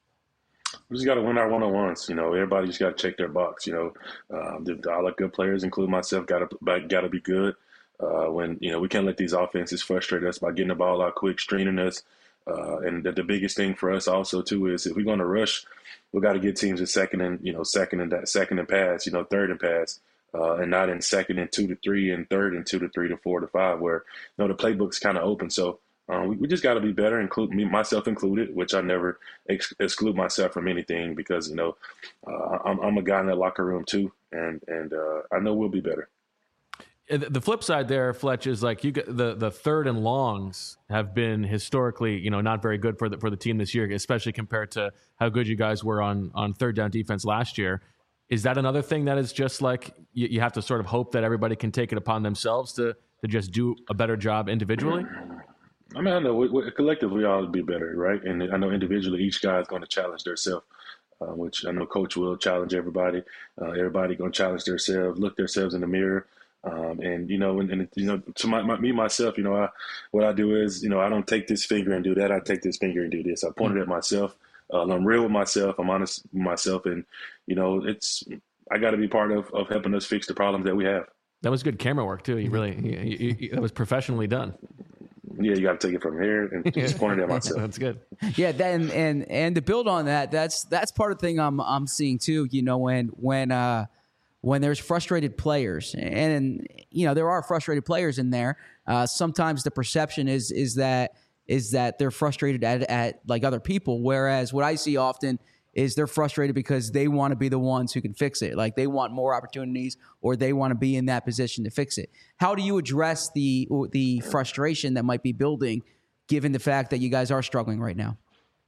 S4: We just got to win our one-on-ones. You know, everybody just got to check their box. You know, um, the, all our good players, including myself, got to got to be good. Uh, when you know we can't let these offenses frustrate us by getting the ball out quick, straining us. Uh, and the, the biggest thing for us also too is if we're going to rush, we got to get teams in second and you know second and that second and pass. You know, third and pass. Uh, and not in second and two to three and third and two to three to four to five, where you know the playbook's kind of open. So um, we, we just got to be better, include me, myself included, which I never ex- exclude myself from anything because you know uh, I'm, I'm a guy in that locker room too, and and uh, I know we'll be better.
S1: The flip side there, Fletch, is like you get the the third and longs have been historically, you know, not very good for the for the team this year, especially compared to how good you guys were on on third down defense last year. Is that another thing that is just like you, you have to sort of hope that everybody can take it upon themselves to to just do a better job individually?
S4: I mean, I know we, we, collectively we all be better, right? And I know individually each guy is going to challenge themselves, uh, which I know Coach will challenge everybody. Uh, everybody going to challenge themselves, look themselves in the mirror. Um, and, you know, and, and you know, to my, my, me, myself, you know, I, what I do is, you know, I don't take this finger and do that. I take this finger and do this. I pointed at myself. Uh, I'm real with myself. I'm honest with myself. And, you know, it's, I got to be part of, of helping us fix the problems that we have.
S1: That was good camera work too. You really, you, you, you, that was professionally done.
S4: Yeah, you got to take it from here and just point it at myself.
S1: That's good.
S3: Yeah, then and and to build on that, that's that's part of the thing I'm I'm seeing too. You know, when when uh, when there's frustrated players, and you know there are frustrated players in there. Uh, sometimes the perception is is that is that they're frustrated at at like other people, whereas what I see often is they're frustrated because they want to be the ones who can fix it. Like they want more opportunities or they want to be in that position to fix it. How do you address the the frustration that might be building given the fact that you guys are struggling right now?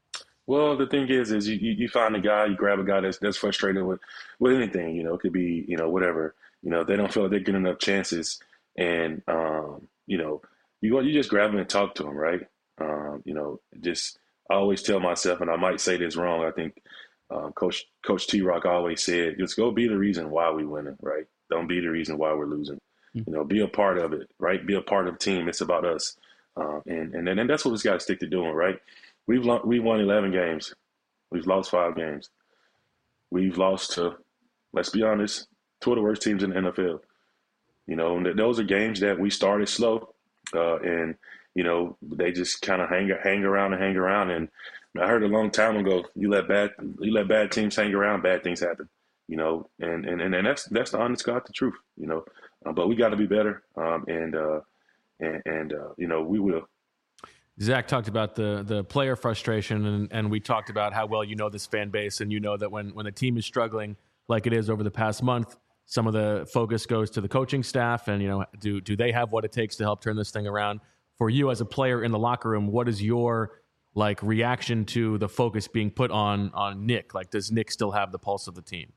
S4: Well, the thing is, is you, you find a guy, you grab a guy that's, that's frustrated with, with anything, you know, it could be, you know, whatever, you know, they don't feel like they're getting enough chances. And, um, you know, you go, you just grab them and talk to them, right? Um, you know, just, I always tell myself, and I might say this wrong, I think um, Coach Coach T-Rock always said, just go be the reason why we winning, right? Don't be the reason why we're losing. Mm-hmm. You know, be a part of it, right? Be a part of the team. It's about us. Um, and, and, and that's what we've got to stick to doing, right? We've, we've won eleven games. We've lost five games. We've lost to, let's be honest, two of the worst teams in the N F L. You know, and those are games that we started slow uh, and, you know, they just kind of hang hang around and hang around. And I heard a long time ago, you let bad you let bad teams hang around, bad things happen. You know, and and, and that's that's the honest God, the truth. You know, uh, but we got to be better, um, and uh, and, and uh, you know, we will.
S1: Zach talked about the the player frustration, and, and we talked about how well you know this fan base, and you know that when when the team is struggling like it is over the past month, some of the focus goes to the coaching staff, and you know, do do they have what it takes to help turn this thing around? For you as a player in the locker room, what is your like reaction to the focus being put on on Nick? Like, does Nick still have the pulse of the team?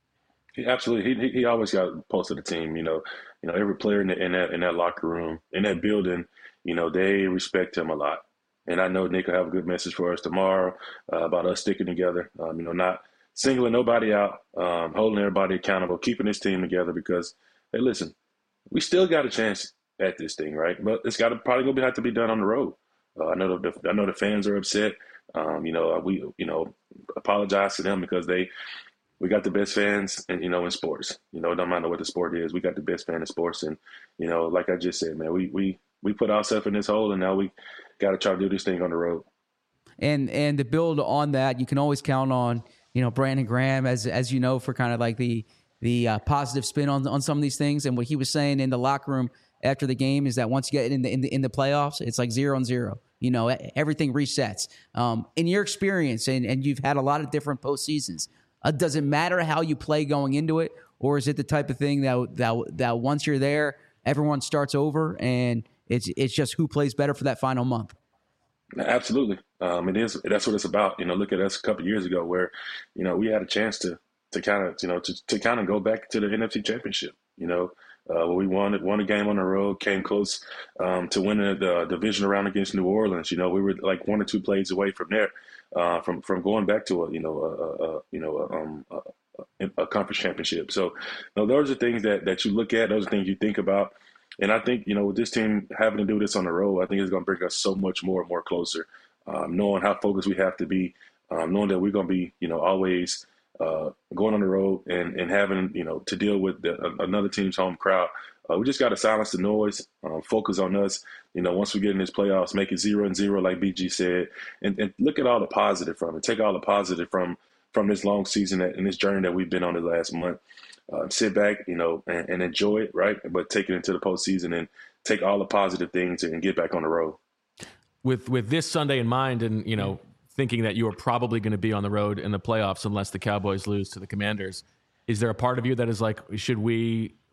S4: He, absolutely, he he always got the pulse of the team. You know, you know every player in, the, in that in that locker room, in that building, you know, they respect him a lot. And I know Nick will have a good message for us tomorrow uh, about us sticking together. Um, you know, not singling nobody out, um, holding everybody accountable, keeping this team together. Because hey, listen, we still got a chance at this thing, right? But it's got to probably going to have to be done on the road. Uh, I know the I know the fans are upset. Um, you know, we you know apologize to them because they we got the best fans, and you know in sports. You know, no matter what the sport is, we got the best fan in sports. And you know, like I just said, man, we we we put ourselves in this hole, and now we got to try to do this thing on the road.
S3: And and to build on that, you can always count on you know Brandon Graham as as you know for kind of like the the uh, positive spin on on some of these things. And what he was saying in the locker room after the game is that once you get in the in the, in the playoffs, it's like zero and zero. You know, everything resets. Um, in your experience, and, and you've had a lot of different postseasons, uh, does it matter how you play going into it, or is it the type of thing that that that once you're there, everyone starts over, and it's it's just who plays better for that final month?
S4: Absolutely, um, it is. That's what it's about. You know, look at us a couple of years ago, where you know we had a chance to to kind of you know to to kind of go back to the N F C Championship. You know. Uh, where we won won a game on the road, came close um, to winning the division round against New Orleans. You know, we were like one or two plays away from there, uh, from from going back to a you know a, a you know a, um, a, a conference championship. So, you know, those are things that that you look at. Those are things you think about. And I think you know with this team having to do this on the road, I think it's going to bring us so much more and more closer. Um, knowing how focused we have to be, um, knowing that we're going to be you know always. Uh, going on the road and, and having, you know, to deal with the, uh, another team's home crowd. Uh, we just got to silence the noise, um, focus on us. You know, once we get in this playoffs, make it zero and zero, like B G said, and, and look at all the positive from it. Take all the positive from from this long season that, and this journey that we've been on the last month. Uh, sit back, you know, and, and enjoy it, right? But take it into the postseason and take all the positive things and get back on the road.
S1: With with this Sunday in mind, and you know. Thinking that you are probably going to be on the road in the playoffs unless the Cowboys lose to the Commanders. Is there a part of you that is like, should we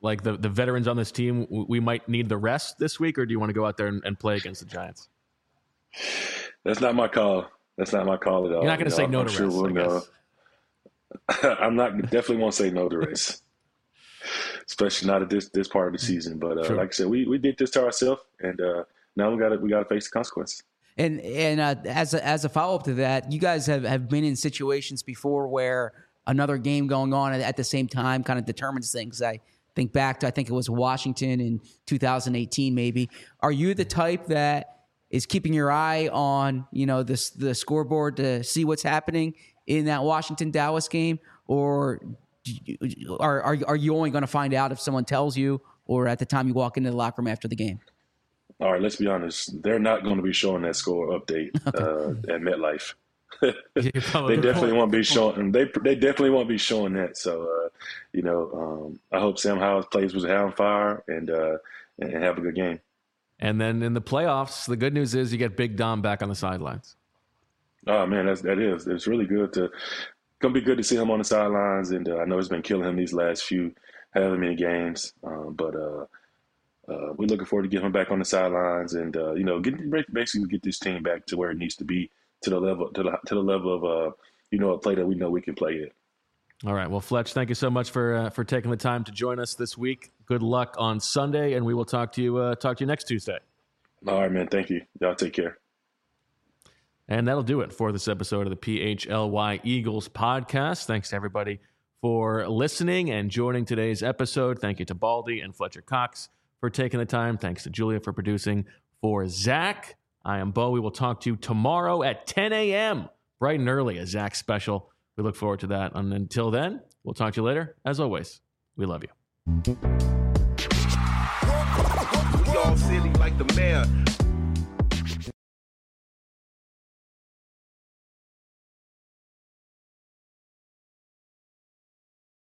S1: like the, the veterans on this team, we might need the rest this week, or do you want to go out there and, and play against the Giants?
S4: That's not my call. That's not my call at all.
S1: You're not going to
S4: you
S1: say
S4: know,
S1: no
S4: I'm
S1: to
S4: sure
S1: rest,
S4: we'll
S1: I
S4: know. I'm not definitely won't say no to rest, especially not at this this part of the season. But uh,
S1: Sure.
S4: like I said, we, we did this to ourselves, and uh, now we got to we got to face the consequences.
S3: And and uh, as a, as a follow up to that, you guys have, have been in situations before where another game going on at, at the same time kind of determines things. I think back to I think it was Washington in two thousand eighteen, maybe. Are you the type that is keeping your eye on you know the the scoreboard to see what's happening in that Washington Dallas game, or are are are you only going to find out if someone tells you, or at the time you walk into the locker room after the game?
S4: All right, let's be honest. They're not going to be showing that score update uh, at MetLife. they definitely won't be showing. They they definitely won't be showing that. So, uh, you know, um, I hope Sam Howell plays with hell on fire and uh, and have a good game.
S1: And then in the playoffs, the good news is you get Big Dom back on the sidelines.
S4: Oh man, that's that is. It's really good to gonna be good to see him on the sidelines, and uh, I know it's been killing him these last few however many games. Um, but uh, uh, we're looking forward to getting him back on the sidelines, and uh, you know, get basically get this team back to where it needs to be, to the level to the to the level of uh, you know, a play that we know we can play it.
S1: All right. Well, Fletch, thank you so much for uh, for taking the time to join us this week. Good luck on Sunday, and we will talk to you uh, talk to you next Tuesday.
S4: All right, man. Thank you. Y'all take care.
S1: And that'll do it for this episode of the P H L Y Eagles podcast. Thanks to everybody for listening and joining today's episode. Thank you to Baldy and Fletcher Cox for taking the time. Thanks to Julia for producing. For Zach, I am Bo. We will talk to you tomorrow at ten a.m., bright and early, a Zach special. We look forward to that. And until then, we'll talk to you later. As always, we love you.
S5: We all silly like the mayor.